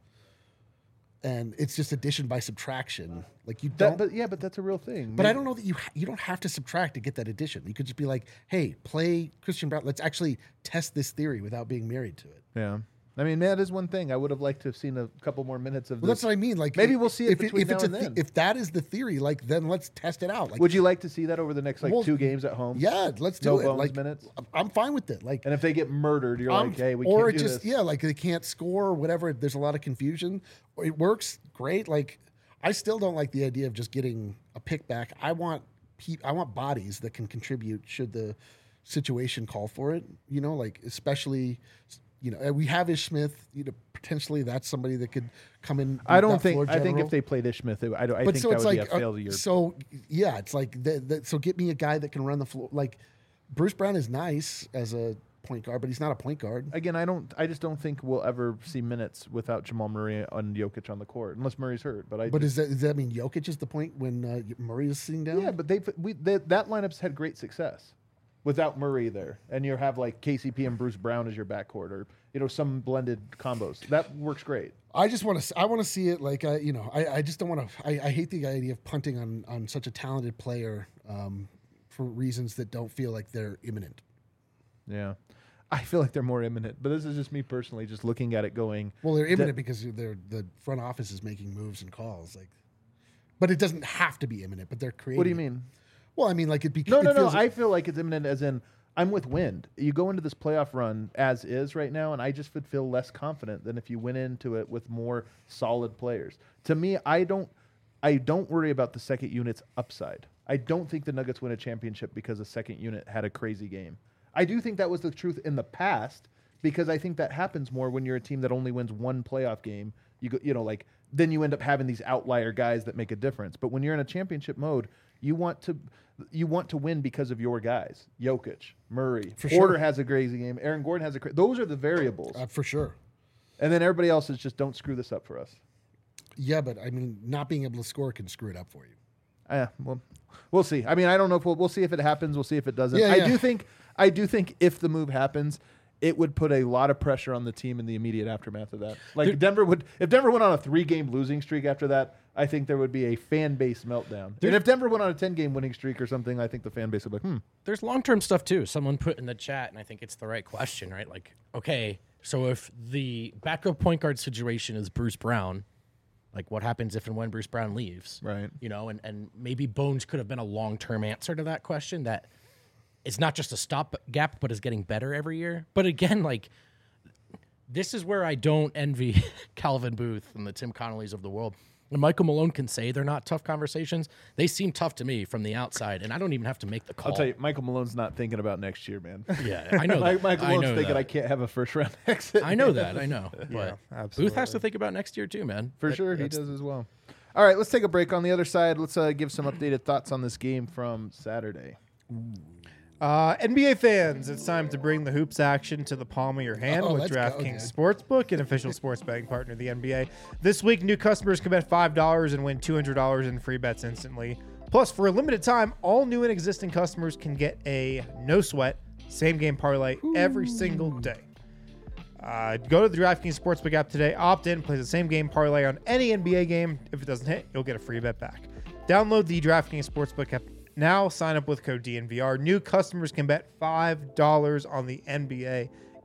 and it's just addition by subtraction. Like you don't, That, but yeah, but that's a real thing. but Maybe- I don't know that you ha- you don't have to subtract to get that addition. You could just be like, hey, play Christian Braun. Let's actually test this theory without being married to it. Yeah. I mean, that is one thing. I would have liked to have seen a couple more minutes of Well, this. that's what I mean. Like Maybe we'll see it if, between if it's now a and the- then. if that is the theory, like then let's test it out. Like, Would you like to see that over the next like Well, two games at home? yeah, let's do No it. bones Like minutes? I'm fine with it. Like And if they get murdered, you're Um, like, hey, we or can't it do just this. yeah, like they can't score or whatever. There's a lot of confusion. Or it works great. Like I still don't like the idea of just getting a pick back. I want pe- I want bodies that can contribute should the situation call for it. You know, like especially you know we have Ish Smith. You know, potentially that's somebody that could come in. I don't that think. floor I think general. if they played Ish Smith, it, I, don't- I But think so that it's would like be a uh, failure. so yeah, it's like the, the, so get me a guy that can run the floor. Like Bruce Brown is nice as a point guard, but he's not a point guard. Again, I don't. I just don't think we'll ever see minutes without Jamal Murray and Jokic on the court, unless Murray's hurt. But I. But just, is that does that mean Jokic is the point when uh, Murray is sitting down? yeah, but they we they, that lineup's had great success without Murray there, and you have like K C P and Bruce Brown as your backcourt, or you know some blended combos. That works great. I just want to. I want to see it. Like I, you know, I, I just don't want to. I, I hate the idea of punting on on such a talented player um, for reasons that don't feel like they're imminent. Yeah. I feel like they're more imminent, but this is just me personally, just looking at it going. Well, they're imminent because they're the front office is making moves and calls. Like, but it doesn't have to be imminent. But they're creating. What do you it. mean? Well, I mean, like it. Be, No, it no, no. feels like- I feel like it's imminent as in I'm with Wind. You go into this playoff run as is right now, and I just would feel less confident than if you went into it with more solid players. To me, I don't I don't worry about the second unit's upside. I don't think the Nuggets win a championship because the second unit had a crazy game. I do think that was the truth in the past because I think that happens more when you're a team that only wins one playoff game. You go, you know, like then you end up having these outlier guys that make a difference. But when you're in a championship mode, you want to you want to win because of your guys. Jokic, Murray, For Porter sure. has a crazy game. Aaron Gordon has a cra- those are the variables, uh, for sure. and then everybody else is just don't screw this up for us. Yeah, but I mean, not being able to score can screw it up for you. Yeah, well, we'll see. I mean, I don't know if we'll we'll see if it happens. We'll see if it doesn't. Yeah, I yeah. do think I do think if the move happens, it would put a lot of pressure on the team in the immediate aftermath of that. Like There- Denver would, if Denver went on a three-game losing streak after that, I think there would be a fan base meltdown. There- and if Denver went on a ten-game winning streak or something, I think the fan base would be like, hmm. There's long term stuff too. Someone put in the chat, and I think it's the right question, right? Like, okay, so if the backup point guard situation is Bruce Brown, like what happens if and when Bruce Brown leaves? Right. You know, and, and maybe Bones could have been a long term answer to that question that it's not just a stop gap, but is getting better every year. But again, like, this is where I don't envy Calvin Booth and the Tim Connollys of the world. And Michael Malone can say they're not tough conversations. They seem tough to me from the outside, and I don't even have to make the call. I'll tell you, Michael Malone's not thinking about next year, man. Yeah, I know Mike- that. Michael I Malone's know thinking that. I can't have a first-round exit. I know that. I know. But Booth absolutely. has to think about next year too, man. For That- sure, he that's- does as well. All right, let's take a break. On the other side, let's uh, give some updated thoughts on this game from Saturday. Uh, N B A fans, it's time to bring the hoops action to the palm of your hand Oh, with let's go, DraftKings dude. Sportsbook, an official sports betting partner of the N B A. This week, new customers can bet five dollars and win two hundred dollars in free bets instantly. Plus, for a limited time, all new and existing customers can get a no-sweat same-game parlay every single day. Uh, go to the DraftKings Sportsbook app today, opt in, play the same game parlay on any N B A game. If it doesn't hit, you'll get a free bet back. Download the DraftKings Sportsbook app now. Sign up with code D N V R. New customers can bet five dollars on the N B A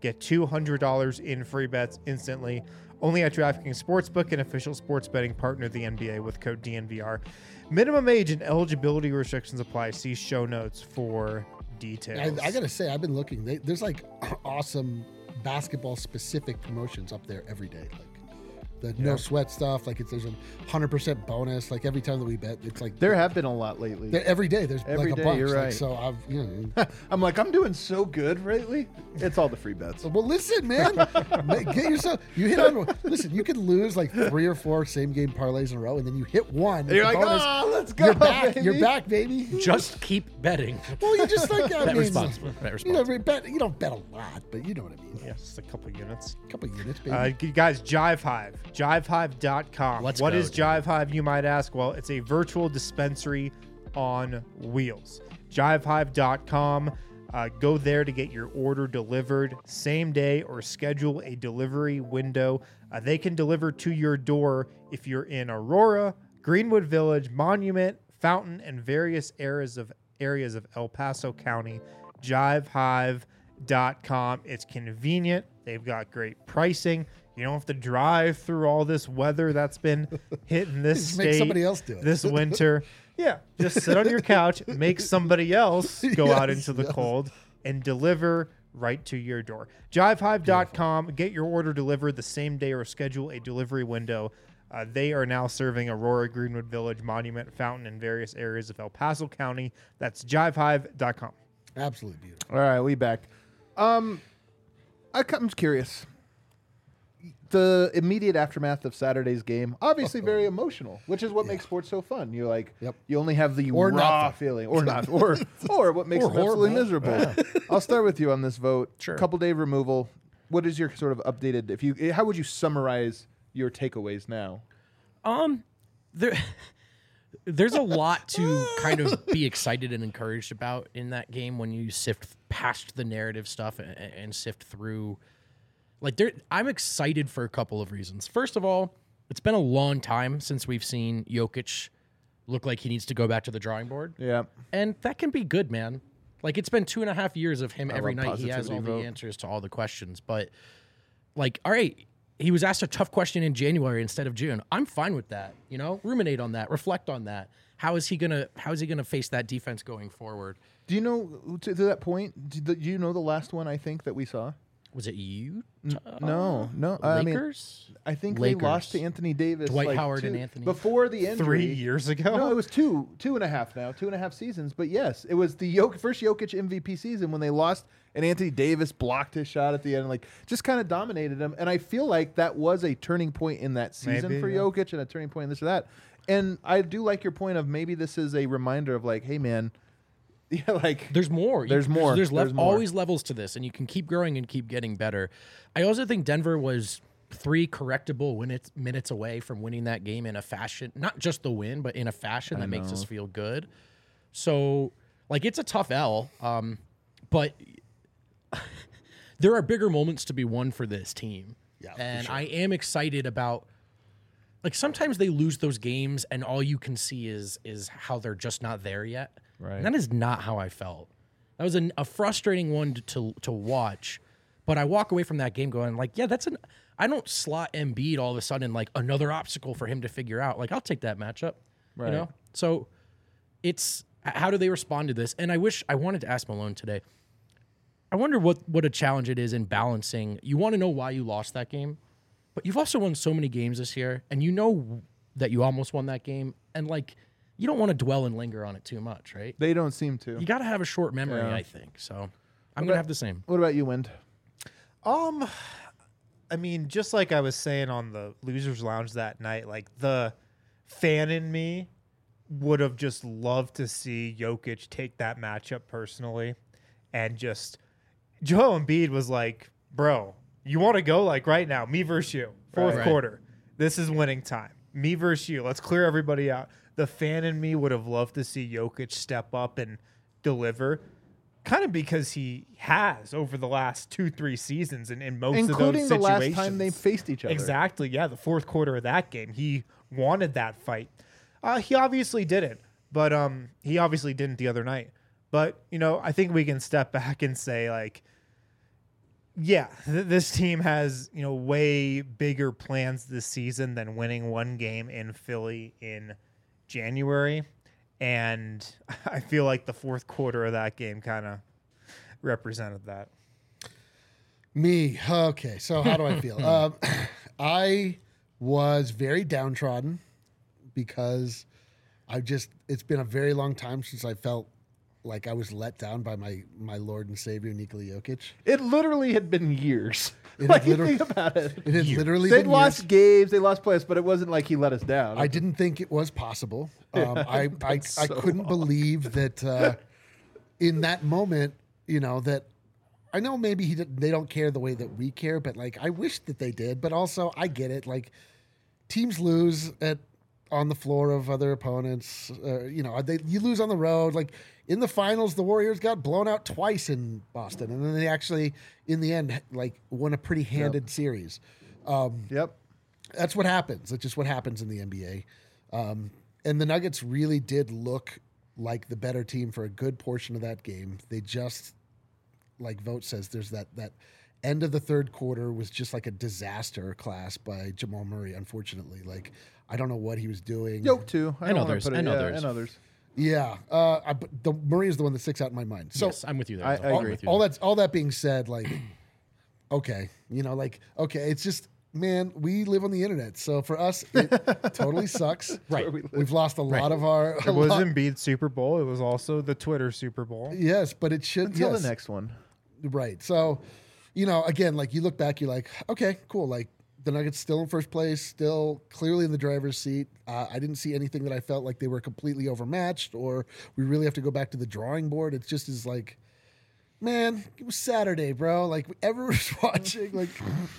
Get two hundred dollars in free bets instantly. Only at DraftKings Sportsbook, an official sports betting partner of the N B A, with code D N V R. Minimum age and eligibility restrictions apply. See show notes for details. I, I gotta say, I've been looking. They, there's like awesome basketball specific promotions up there every day. Like the no sweat stuff. Like it's there's a hundred percent bonus. Like every time that we bet, it's like There have been a lot lately. there- every day. There's Every like day, a bunch. you're Like, right. so I've you know. I'm like, I'm doing so good lately. It's all the free bets. Well, listen, man. Ma- Get yourself. You hit on. Listen, you could lose like three or four same game parlays in a row, and then you hit one. And you're with like, the bonus. oh, let's go, You're back. baby." You're back, baby. Just keep betting. Well, you just like I Bet mean, responsibly. Bet You know, responsibly. bet. You don't bet a lot, but you know what I mean. Yeah, just a couple units. A couple units, baby. Uh, you guys, Jive Hive, jive hive dot com. Let's What go, is dude. Jive Hive, you might ask? Well, it's a virtual dispensary on wheels. jive hive dot com. Uh, go there to get your order delivered same day or schedule a delivery window. Uh, they can deliver to your door if you're in Aurora, Greenwood Village, Monument, Fountain, and various areas of areas of El Paso County. jive hive dot com. It's convenient. They've got great pricing. You don't have to drive through all this weather that's been hitting this Just state make somebody else do it. this winter. Yeah, just sit on your couch, make somebody else go out Yes, into the yes. cold, and deliver right to your door. jive hive dot com. Get your order delivered the same day or schedule a delivery window. Uh, they are now serving Aurora, Greenwood Village, Monument, Fountain, and various areas of El Paso County. That's jive hive dot com. Absolutely beautiful. All right, we back. Um, I, I'm curious. The immediate aftermath of Saturday's game, obviously very emotional, which is what makes sports so fun. You're like, Yep. you only have the Or not raw fun. feeling, or not, or or what makes Or them absolutely horrible. miserable. I'll start with you on this vote. Sure. Couple day removal. What is your sort of updated? If you, how would you summarize your takeaways now? Um, there, there's a lot to kind of be excited and encouraged about in that game when you sift past the narrative stuff and, and sift through. Like, there, I'm excited for a couple of reasons. First of all, it's been a long time since we've seen Jokic look like he needs to go back to the drawing board, Yeah, and that can be good, man. Like, it's been two and a half years of him I every love night. He has positivity all vote. the answers to all the questions, but like, all right. He was asked a tough question in January instead of June. I'm fine with that. You know, ruminate on that, reflect on that. How is he gonna? How is he gonna face that defense going forward? do you know to, to that point? Do, do you know the last one I think that we saw? Was it you? No, no. I mean, Lakers. I think Lakers. they lost to Anthony Davis. Dwight like Howard two- and Anthony. before the injury. Three years ago? No, it was two, two and a half now, two and a half seasons. But yes, it was the Jok- first Jokic M V P season when they lost, and Anthony Davis blocked his shot at the end, like just kind of dominated him. And I feel like that was a turning point in that season Maybe, for yeah. Jokic, and a turning point in this or that. And I do like your point of maybe this is a reminder of like, hey man, yeah, like There's more. You There's can- more. There's, lev- There's more. always levels to this, and you can keep growing and keep getting better. I also think Denver was three correctable minutes minutes away from winning that game in a fashion, not just the win, but in a fashion that makes us feel good. So, like, it's a tough L, um, but there are bigger moments to be won for this team. Yeah, for and sure. I am excited about. Like, sometimes they lose those games, and all you can see is is how they're just not there yet. Right. And that is not how I felt. That was an, a frustrating one to, to to watch. But I walk away from that game going like, yeah, that's an. I don't slot Embiid all of a sudden like another obstacle for him to figure out. Like, I'll take that matchup. Right. You know. So it's how do they respond to this? And I wish I wanted to ask Malone today. I wonder what what a challenge it is in balancing. You want to know why you lost that game, but you've also won so many games this year, and you know that you almost won that game, and like you don't want to dwell and linger on it too much, right? they don't seem to. You got to have a short memory, Yeah. I think. So I'm gonna have the same. What about you, Wind? Um, I mean, just like I was saying on the Losers Lounge that night, like the fan in me would have just loved to see Jokic take that matchup personally, and just Joel Embiid was like, "Bro, you want to go like right now? Me versus you, fourth Right. quarter. This is winning time. Me versus you. Let's clear everybody out." The fan in me would have loved to see Jokic step up and deliver. Kind of because he has over the last two, three seasons in, in most Including of the those last situations. time they faced each other. Exactly, yeah. The fourth quarter of that game, he wanted that fight. Uh, he obviously didn't, but um, he obviously didn't the other night. But, you know, I think we can step back and say, like, Yeah, th- this team has, you know, way bigger plans this season than winning one game in Philly in January. And I feel like the fourth quarter of that game kind of represented that. Me. Okay. So how do I feel? um, I was very downtrodden because I just, it's been a very long time since I felt like I was let down by my, my Lord and Savior, Nikola Jokic. It literally had been years. It like, had you literally- think about it. It had literally They been lost years. games, they lost plays, but it wasn't like he let us down. I didn't think it was possible. Um, I, I, I so couldn't believe that uh, in that moment, you know, that I know maybe he did, they don't care the way that we care, but like I wish that they did. But also, I get it. Like teams lose at on the floor of other opponents. Uh, you know, they you lose on the road. Like in the finals, the Warriors got blown out twice in Boston, and then they actually, in the end, like won a pretty handed series. Um, Yep. that's what happens. That's just what happens in the N B A. Um, and the Nuggets really did look like the better team for a good portion of that game. They just, like Vogt says, there's that that end of the third quarter was just like a disaster class by Jamal Murray. Unfortunately, like I don't know what he was doing. Yoke too. I And don't wanna others, put it- and yeah, others. and others. Yeah, uh, I, but the Murray is the one that sticks out in my mind. So yes, I'm with you there. I- Zoe. I I'm agree. with you all there. that's all that being said, like, okay, you know, like, okay, it's just, man, we live on the internet, so for us, it totally sucks. Right. Where we live. We've lost a lot of our. It a was lot- Embiid's Super Bowl. It was also the Twitter Super Bowl. Yes, but it should. Until yes. the next one. Right. So, you know, again, like you look back, you're like, okay, cool. Like the Nuggets still in first place, still clearly in the driver's seat. Uh, I didn't see anything that I felt like they were completely overmatched or we really have to go back to the drawing board. It's just is like, man, it was Saturday, bro. Like everyone's watching, like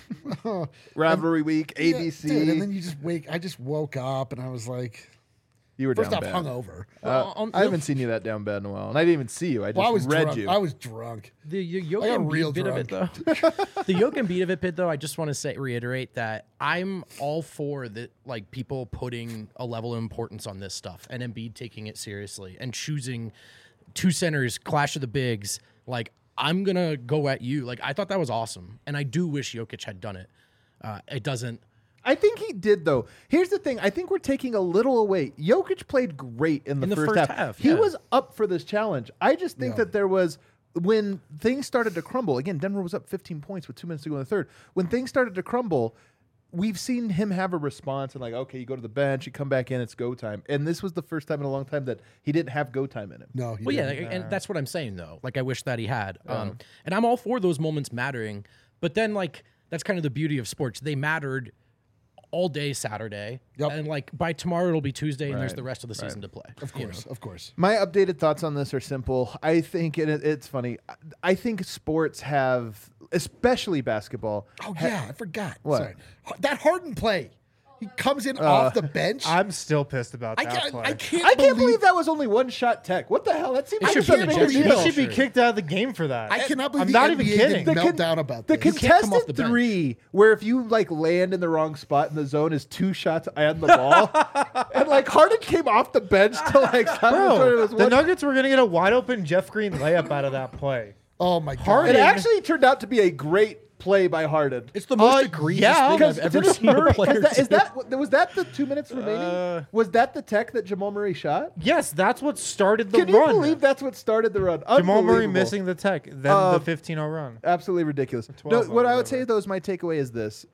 oh, Rivalry week, A B C. yeah, dude, and then you just wake. I just woke up and I was like, you were first down off, bad. hungover. Uh, Well, on- I haven't seen you that down bad in a while, and I didn't even see you. I just Well, I was read drunk. you. I was drunk. The the Yoke I got and real beat bit of it though. The Yoke and beat of it bit though. I just want to say reiterate that I'm all for that. Like people putting a level of importance on this stuff, and Embiid taking it seriously and choosing two centers, clash of the bigs. Like I'm gonna go at you. Like I thought that was awesome, and I do wish Jokic had done it. Uh, it doesn't. I think he did, though. Here's the thing. I think we're taking a little away. Jokic played great in the, In the first, first half. half, He yeah. was up for this challenge. I just think Yeah. that there was, when things started to crumble, again, Denver was up fifteen points with two minutes to go in the third. When things started to crumble, we've seen him have a response and like, okay, you go to the bench, you come back in, it's go time. And this was the first time in a long time that he didn't have go time in him. No, he Well, yeah, didn't. like, and that's what I'm saying though. Like, I wish that he had. Um, and I'm all for those moments mattering, but then like that's kind of the beauty of sports. They mattered all day Saturday, Yep. and like by tomorrow it'll be Tuesday, and there's Right, the rest of the season to play. Of you know? course, of course. My updated thoughts on this are simple. I think and it, it's funny. I- I think sports have, especially basketball. Oh ha- yeah, I forgot. What? Sorry. H- That Harden play. He comes in off the bench. I'm still pissed about I that can't, play. I can't. I can't believe, believe that was only one shot tech. What the hell? That seems It like should such be a an big ejection. deal. He should be kicked out of the game for that. I cannot believe I'm the not N even B A kidding. didn't The melt con- down about The this. can't come off contested the bench. three, where if you like land in the wrong spot in the zone, is two shots and the ball, and like Harden came off the bench to like stop it. It Bro, was the one- Nuggets were going to get a wide open Jeff Green layup out of that play. oh my god. Harden- It actually turned out to be a great play by Harden. It's the most Uh, egregious yeah, thing Because I've ever didn't seen a Murray- player is that, is do. that was that the two minutes remaining? Uh, was that the tech that Jamal Murray shot? Yes, that's what started the Can you run. believe that's what started the run? Jamal Murray Unbelievable. missing the tech, then Uh, the fifteen oh run. Absolutely ridiculous. No, twelve what I would whatever. say though is my takeaway is this.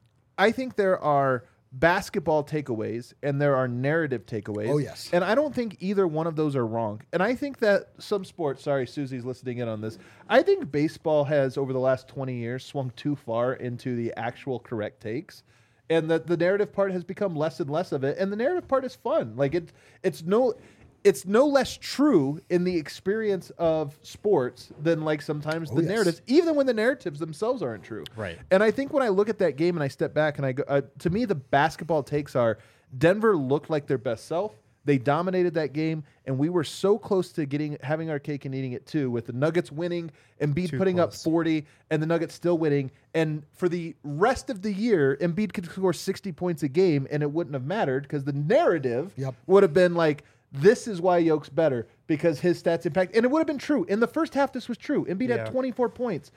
I think there are basketball takeaways and there are narrative takeaways. Oh, yes. And I don't think either one of those are wrong. And I think that some sports, sorry, Susie's listening in on this. I think baseball has over the last twenty years swung too far into the actual correct takes. And that the narrative part has become less and less of it. And the narrative part is fun. Like it it's no it's no less true in the experience of sports than like sometimes Oh, the yes. narratives, even when the narratives themselves aren't true. Right. And I think when I look at that game and I step back and I go, uh, to me, the basketball takes are Denver looked like their best self. They dominated that game, and we were so close to getting having our cake and eating it too, with the Nuggets winning and Embiid Too putting up close. forty, and the Nuggets still winning. And for the rest of the year, Embiid could score sixty points a game, and it wouldn't have mattered because the narrative Yep. would have been like, this is why Yoke's better because his stats impact. And it would have been true. In the first half, this was true. Embiid Yeah. had twenty-four points.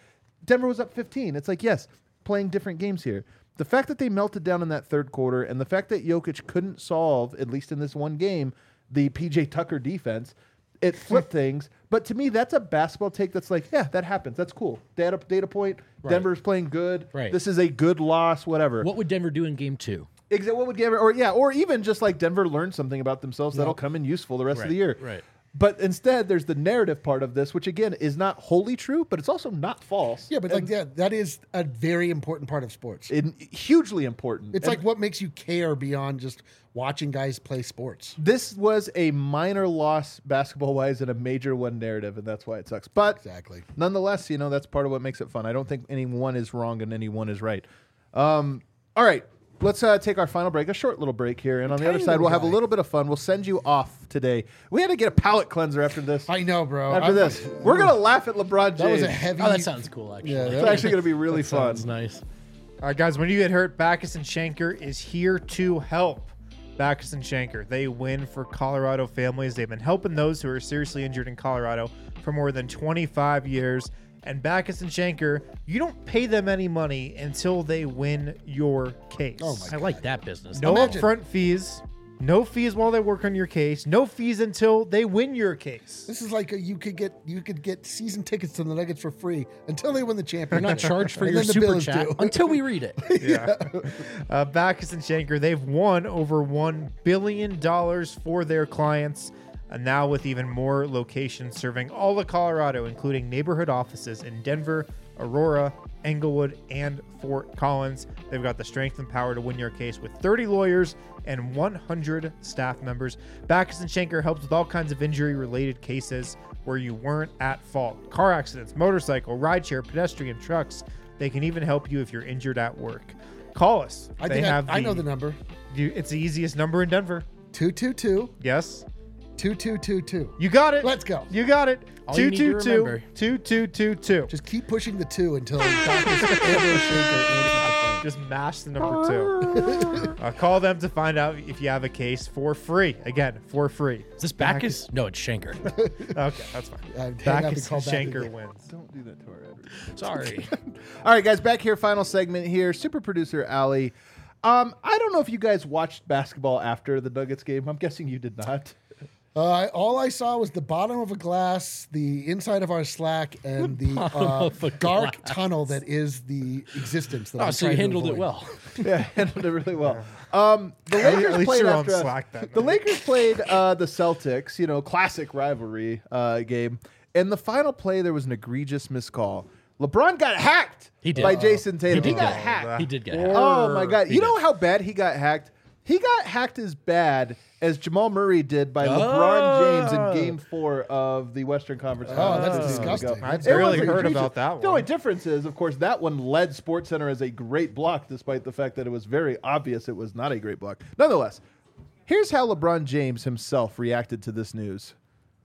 Denver was up fifteen. It's like, yes, playing different games here. The fact that they melted down in that third quarter and the fact that Jokic couldn't solve, at least in this one game, the P J Tucker defense, it flipped things. But to me, that's a basketball take that's like, yeah, that happens. That's cool. Data, data point, Right. Denver's playing good. Right. This is a good loss, whatever. What would Denver do in game two? Exactly. What would Denver, or yeah, or even just like Denver learned something about themselves that'll come in useful the rest of the year. Right. But instead, there's the narrative part of this, which again is not wholly true, but it's also not false. Yeah, but like that, that is a very important part of sports. In, hugely important. It's And like what makes you care beyond just watching guys play sports. this was a minor loss basketball wise and a major one narrative, and that's why it sucks. But Exactly. nonetheless, you know, that's part of what makes it fun. I don't think any one is wrong and any one is right. Um, all right. Let's uh, take our final break, a short little break here. And on the other Tiny side, we'll little have a guy. little bit of fun. We'll send you off today. We had to get a palate cleanser after this. I know, bro. After I'm- this, we're going to laugh at LeBron James. That was a heavy. Oh, that sounds cool, actually. Yeah, that It's actually going to be really fun. Sounds nice. All right, guys, when you get hurt, Backus and Schenker is here to help. Backus and Schenker, they win for Colorado families. They've been helping those who are seriously injured in Colorado for more than twenty-five years. And Backus and Schenker, you don't pay them any money until they win your case. Oh my I like that business. No Imagine- upfront fees. No fees while they work on your case. No fees until they win your case. This is like a, you could get you could get season tickets to the Nuggets for free until they win the You're championship. not charged for And your then the super Bills chat do. until we read it. Yeah. uh, Backus and Schenker, they've won over one billion dollars for their clients. And now with even more locations serving all of Colorado, including neighborhood offices in Denver, Aurora, Englewood, and Fort Collins. They've got the strength and power to win your case with thirty lawyers and one hundred staff members. Backus and Schenker helps with all kinds of injury-related cases where you weren't at fault. Car accidents, motorcycle, rideshare, pedestrian, trucks. They can even help you if you're injured at work. Call us. I they think I, have I know the number. You, it's the easiest number in Denver. two two two, Yes. two two two two. You got it. Let's go. You got it. All you need to remember. two two two two. Just keep pushing the two until Backus and Schenker answers the phone. Just mash the number two. uh, call them to find out if you have a case for free. Again, for free. Is this Backus? No, it's Schenker. Okay, that's fine. Uh, hang up Backus and call and back Schenker again. wins. Don't do that to our editor. Sorry. All right, guys, back here, final segment here. Super producer Ali. Um, I don't know if you guys watched basketball after the Nuggets game. I'm guessing you did not. Uh, all I saw was the bottom of a glass, the inside of our Slack, and the uh, of a dark glass. tunnel that is the existence. That Oh, I'm so you trying to handled it avoid. well. Yeah, handled it really well. Um, the At Lakers least played you're on after us. Slack that The night. Lakers played uh, the Celtics, you know, classic rivalry uh, game. In the final play, there was an egregious miscall. LeBron got hacked He did. by Uh-oh. Jason Tatum. He, did got get hacked. He did get hacked. Oh my God! He You know did. how bad he got hacked? He got hacked as bad as Jamal Murray did by LeBron James in Game Four of the Western Conference. Oh, Finals that's two seasons disgusting. ago. I It barely was heard egregious. about that The only one. difference is, of course, that one led SportsCenter as a great block, despite the fact that it was very obvious it was not a great block. Nonetheless, here's how LeBron James himself reacted to this news.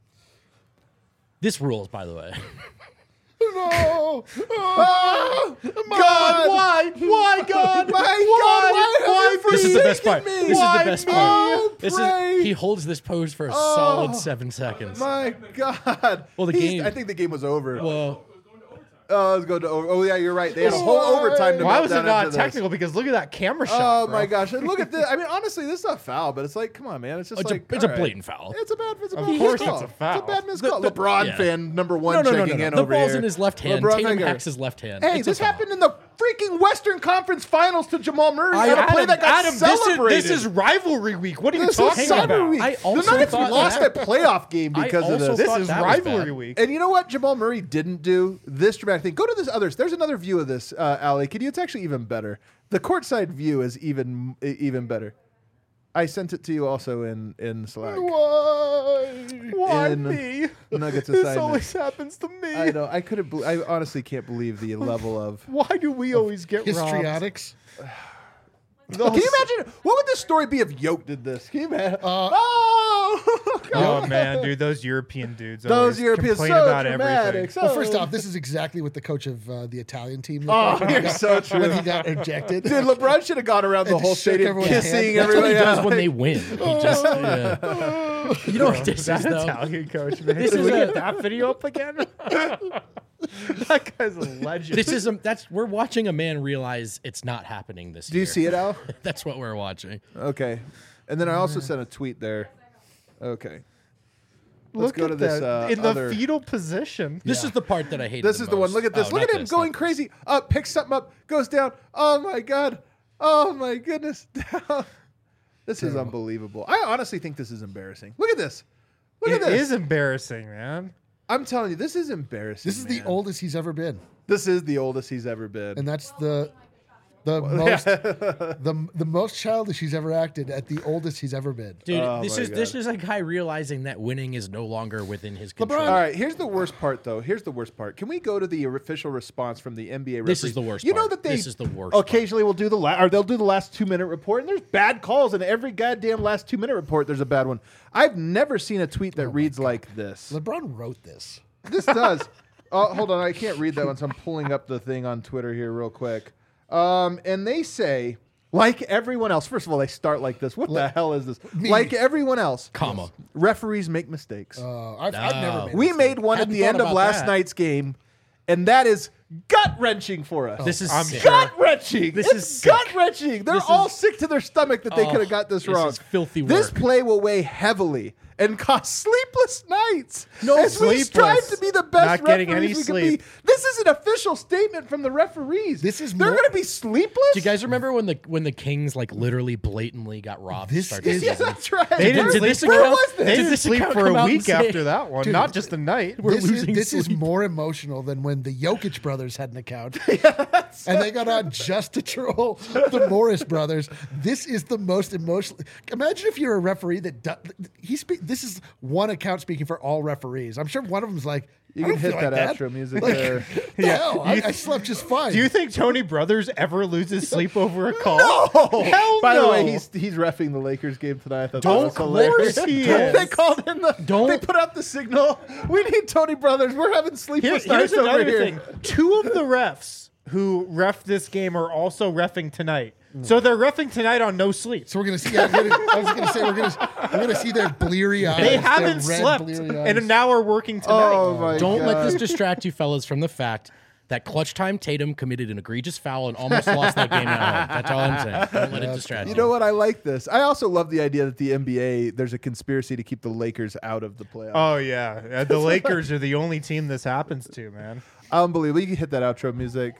This rules, by the way. No! Oh, God, why? Why, God? My Why? God, Why why have you This is the best forsaken part. me? This is Why the best me? part. Oh, This pray. is he holds this pose for a solid seven seconds. My God. Well, the He's- game- I think the game was over. Well, Oh, it was going to over. Oh, yeah, you're right. They had a whole Why? overtime to Why melt was down it not after this. technical? Because look at that camera Oh shot. bro. my gosh! And look at this. I mean, honestly, this is a foul, but it's like, come on, man. It's just it's, like a, it's a all right. blatant foul. It's a bad. It's a Of bad course miscall. it's a foul. It's a bad miscall. The- the- LeBron yeah. fan number one No, no, no, no, checking no. in The over ball's here. in his left hand. LeBron Tatum finger. hacks his left hand. Hey, It's a this foul. happened in the freaking Western Conference Finals to Jamal Murray I- on a play Adam, that got Adam, this is, celebrated. this is rivalry week. What are you This is talking Summer about? Week. I the also Nuggets thought lost that- that playoff game I because of also this. This thought is that was rivalry bad. week. And you know what Jamal Murray didn't do? This dramatic thing. Go to this others. There's another view of this, uh, Ali. Can you? It's actually even better. The courtside view is even even better. I sent it to you also in in Slack. Why? Why in me? Nuggets This assignment. always happens to me. I know. I couldn't. Be- I honestly can't believe the level of. Why do we always get robbed? Histrionics. Can you imagine? What would this story be if Yoke did this? Can you imagine? Uh, oh, Oh man, dude, those European dudes. those always Europeans so complain about dramatic. everything. So Well, first off, this is exactly what the coach of uh, the Italian team looked Oh, like when he you're got- so true. when he got ejected. dude, LeBron should have gone around the And whole just shook stadium everyone's hand. kissing That's what everybody. he does out. when they win. He just, yeah. You know what this That is, though? Italian coach, man. This Can is we a- get that video up again? That guy's a legend. This is a, that's we're watching a man realize it's not happening this Do year. you see it, Al? That's what we're watching. Okay. And then I also sent a tweet there. Okay. Let's Look go at to this that. uh, in the other. fetal position. This is the part that I hate. This is the one. Look at this. Look at him going crazy. Up, picks something up, goes down. Oh my god. Oh my goodness. Down. This is unbelievable. I honestly think this is embarrassing. Look at this. Look It at this. is embarrassing, man. I'm telling you, this is embarrassing. This is the man. oldest he's ever been, This is the oldest he's ever been. and that's the the most the the most childish he's ever acted at the oldest he's ever been. Dude, Oh this my is this God. is a guy realizing that winning is no longer within his control. All right, here's the worst part, though. Here's the worst part. Can we go to the official response from the N B A referees? This is the worst You know part. that they This is the worst part. occasionally will do the la- or they'll do the last two minute report, and there's bad calls in every goddamn last two minute report. There's a bad one. I've never seen a tweet that reads like this. LeBron wrote this. This does. Oh, hold on, I can't read that one, so I'm pulling up the thing on Twitter here real quick. Um, and they say, like everyone else. First of all, they start like this. What the hell is this? Me. Like everyone else, Comma. referees make mistakes. Uh, I've, I've never No. made. We this made one Hadn't at the thought end of about last that. night's game, and that is gut wrenching for us. This is I'm sick. sure. gut wrenching. This It's is sick. gut wrenching. They're This all is- sick to their stomach that they Oh, could have got this, this wrong. is filthy This work. play will weigh heavily and cost sleepless nights. No, as we strive sleepless. to be the best Not getting referees any we sleep. can be. This is an official statement from the referees. This is they're more- going to be sleepless. Do you guys remember when the when the Kings like literally blatantly got robbed? This to start is- the Yeah, season? that's right. They didn't Where- Did this sleep where account- was this? They Did didn't this sleep account for come a out and week say- after that one, Dude, not just a night. We're This is, losing this is sleep. more emotional than when the Jokic brothers had an account, and they got on just to troll the Morris brothers. This is the most emotional. Imagine if you're a referee that do, he speak. This is one account speaking for all referees. I'm sure one of them's like, You I can don't hit feel that like outro music Like, there. the hell, I, You- I slept just fine. Do you think Tony Brothers ever loses sleep over a call? No. Hell By no. the way, he's he's reffing the Lakers game tonight. I thought Don't- that was hilarious. of course he Don't is. They called in the. Don't- They put out the signal. We need Tony Brothers. We're having Here- sleepless here's nights over another here. thing. Two of the refs who ref this game are also reffing tonight. So they're reffing tonight on no sleep. So we're gonna see. I'm gonna, I was gonna say we're gonna we're gonna see their bleary eyes. They their haven't red slept bleary eyes. and now are working tonight. Oh my Don't God. let this distract you fellas from the fact that clutch time Tatum committed an egregious foul and almost lost that game at home. That's all I'm saying. Don't let it distract you. You know what? I like this. I also love the idea that the N B A there's a conspiracy to keep the Lakers out of the playoffs. Oh yeah, Uh, the Lakers are the only team this happens to, man. Unbelievable. You can hit that outro music.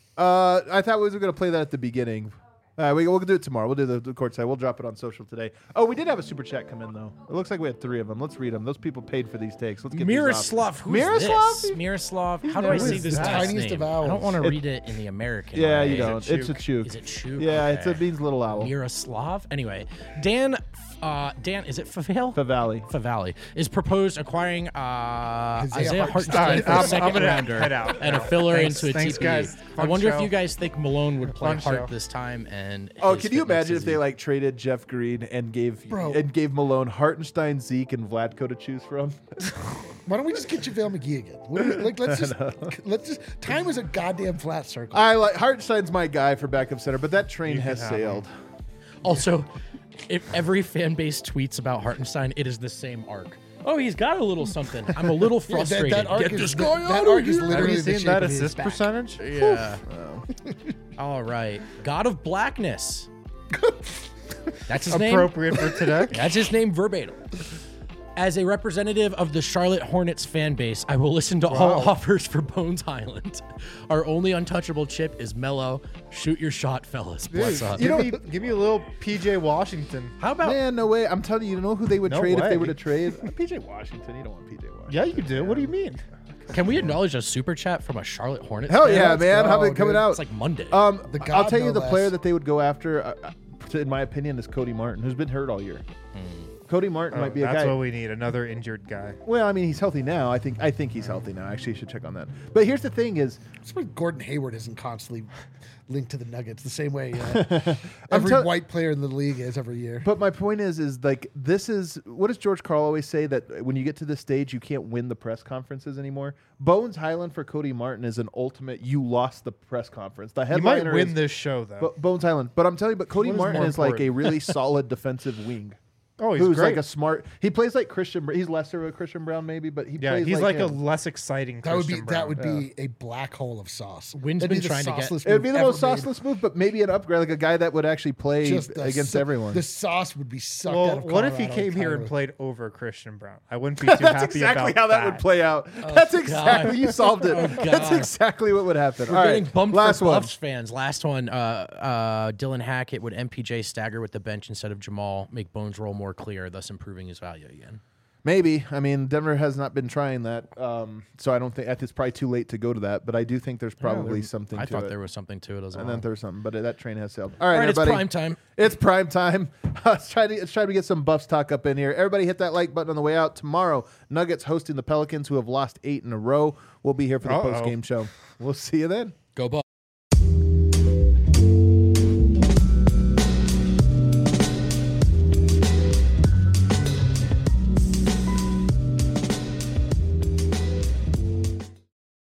Uh, I thought we were going to play that at the beginning. All right, we, we'll do it tomorrow. We'll do the, the court side. We'll drop it on social today. Oh, we did have a super chat come in, though. It looks like we had three of them. Let's read them. Those people paid for these takes. Let's get these Miroslav, off. who's Miroslav? this? Miroslav. How do I Who say is this that? last Tiniest name? of I don't owls. want to It- read it in the American Yeah, way. you don't. Chuk? It's a chook. Is it Chuk? Yeah, it's a Okay. means little owl. Miroslav. Anyway, Dan. Uh, Dan, is it Favale? Favale. Favale is proposed acquiring uh, Isaiah Isaiah Hartenstein. Hartenstein for I'm- a I'm second gonna rounder head out. and a filler Thanks- into a thanks, T P E. guys. I Fun wonder show. if you guys think Malone would play Fun Hart show. this time. And Oh, his can you fitness imagine is if they he- like traded Jeff Green and gave Bro. and gave Malone Hartenstein, Zeke, and Vlatko to choose from? Why don't we just get JaVale McGee again? What do we- like, let's just let's just. Time is a goddamn flat circle. I like Hartenstein's my guy for backup center, but that train You has can have sailed. Also, if every fan base tweets about Hartenstein, it is the same arc. Oh, he's got a little something. I'm a little Yeah, that, frustrated. that arc Get is this that, guy that outta arc is here. Have literally you the seen shape that of his assist back. percentage? Yeah. All right. God of Blackness. That's his name. Appropriate for today. That's his name verbatim. As a representative of the Charlotte Hornets fan base, I will listen to all offers for Bones Highland. Our only untouchable chip is Mello. Shoot your shot, fellas. Bless up. give, me, give me a little P J Washington. How about Man, no way. I'm telling you, you know who they would No trade if way. they were to trade? P J Washington. You don't want P J Washington. Yeah, you do. What do you mean? can we acknowledge a super chat from a Charlotte Hornets? Hell fan? yeah, let's man. How go, it coming dude. out? It's like Monday. Um, The I'll god tell you no the less. player that they would go after, uh, uh, to- in my opinion, is Cody Martin, who's been hurt all year. Cody Martin Oh, might be a that's guy. what we need. Another injured guy. Well, I mean, he's healthy now. I think. I think he's healthy now. Actually, I should check on that. But here's the thing: is That's why Gordon Hayward isn't constantly linked to the Nuggets the same way uh, every tell- white player in the league is every year. But my point is, is like this is what does George Karl always say that when you get to this stage, you can't win the press conferences anymore. Bones Highland for Cody Martin is an ultimate. You lost the press conference. The You headliner might win is this show though. Bo- Bones Highland. But I'm telling you, but Cody What is Martin more is like a important? really solid defensive wing. Oh, he's who's great. like a smart. He plays like Christian. Br- He's lesser of a Christian Brown, maybe, but he yeah, plays he's like, like, a him. less exciting. That would be Christian that Brown. would be a black hole of sauce. Wynn's That'd be been the trying to get- sauceless It would be move the ever most made. sauceless move, but maybe an upgrade, like a guy that would actually play Just the against sa- everyone. The sauce would be sucked Well, out of what if he Colorado came here and entirely. played over Christian Brown? I wouldn't be too That's happy exactly about how that, would play out. Oh, That's God. exactly you solved it. Oh, That's God. exactly what would happen. We're All getting right, bumped last for one. Buffs fans. Last one, uh, uh, Dylan Hackett would M P J stagger with the bench instead of Jamal, make Bones' role more clear, thus improving his value again. Maybe. I mean, Denver has not been trying that, um, so I don't think it's probably too late to go to that. But I do think there's probably something. I to thought it. there was something to it as well. And then there's something, but that train has sailed. All right, All right, it's everybody. prime time. It's prime time. let's try to let's try to get some Buffs talk up in here. Everybody, hit that like button on the way out. Tomorrow, Nuggets hosting the Pelicans, who have lost eight in a row. We'll be here for the Uh-oh. post game show. We'll see you then. Go Buffs.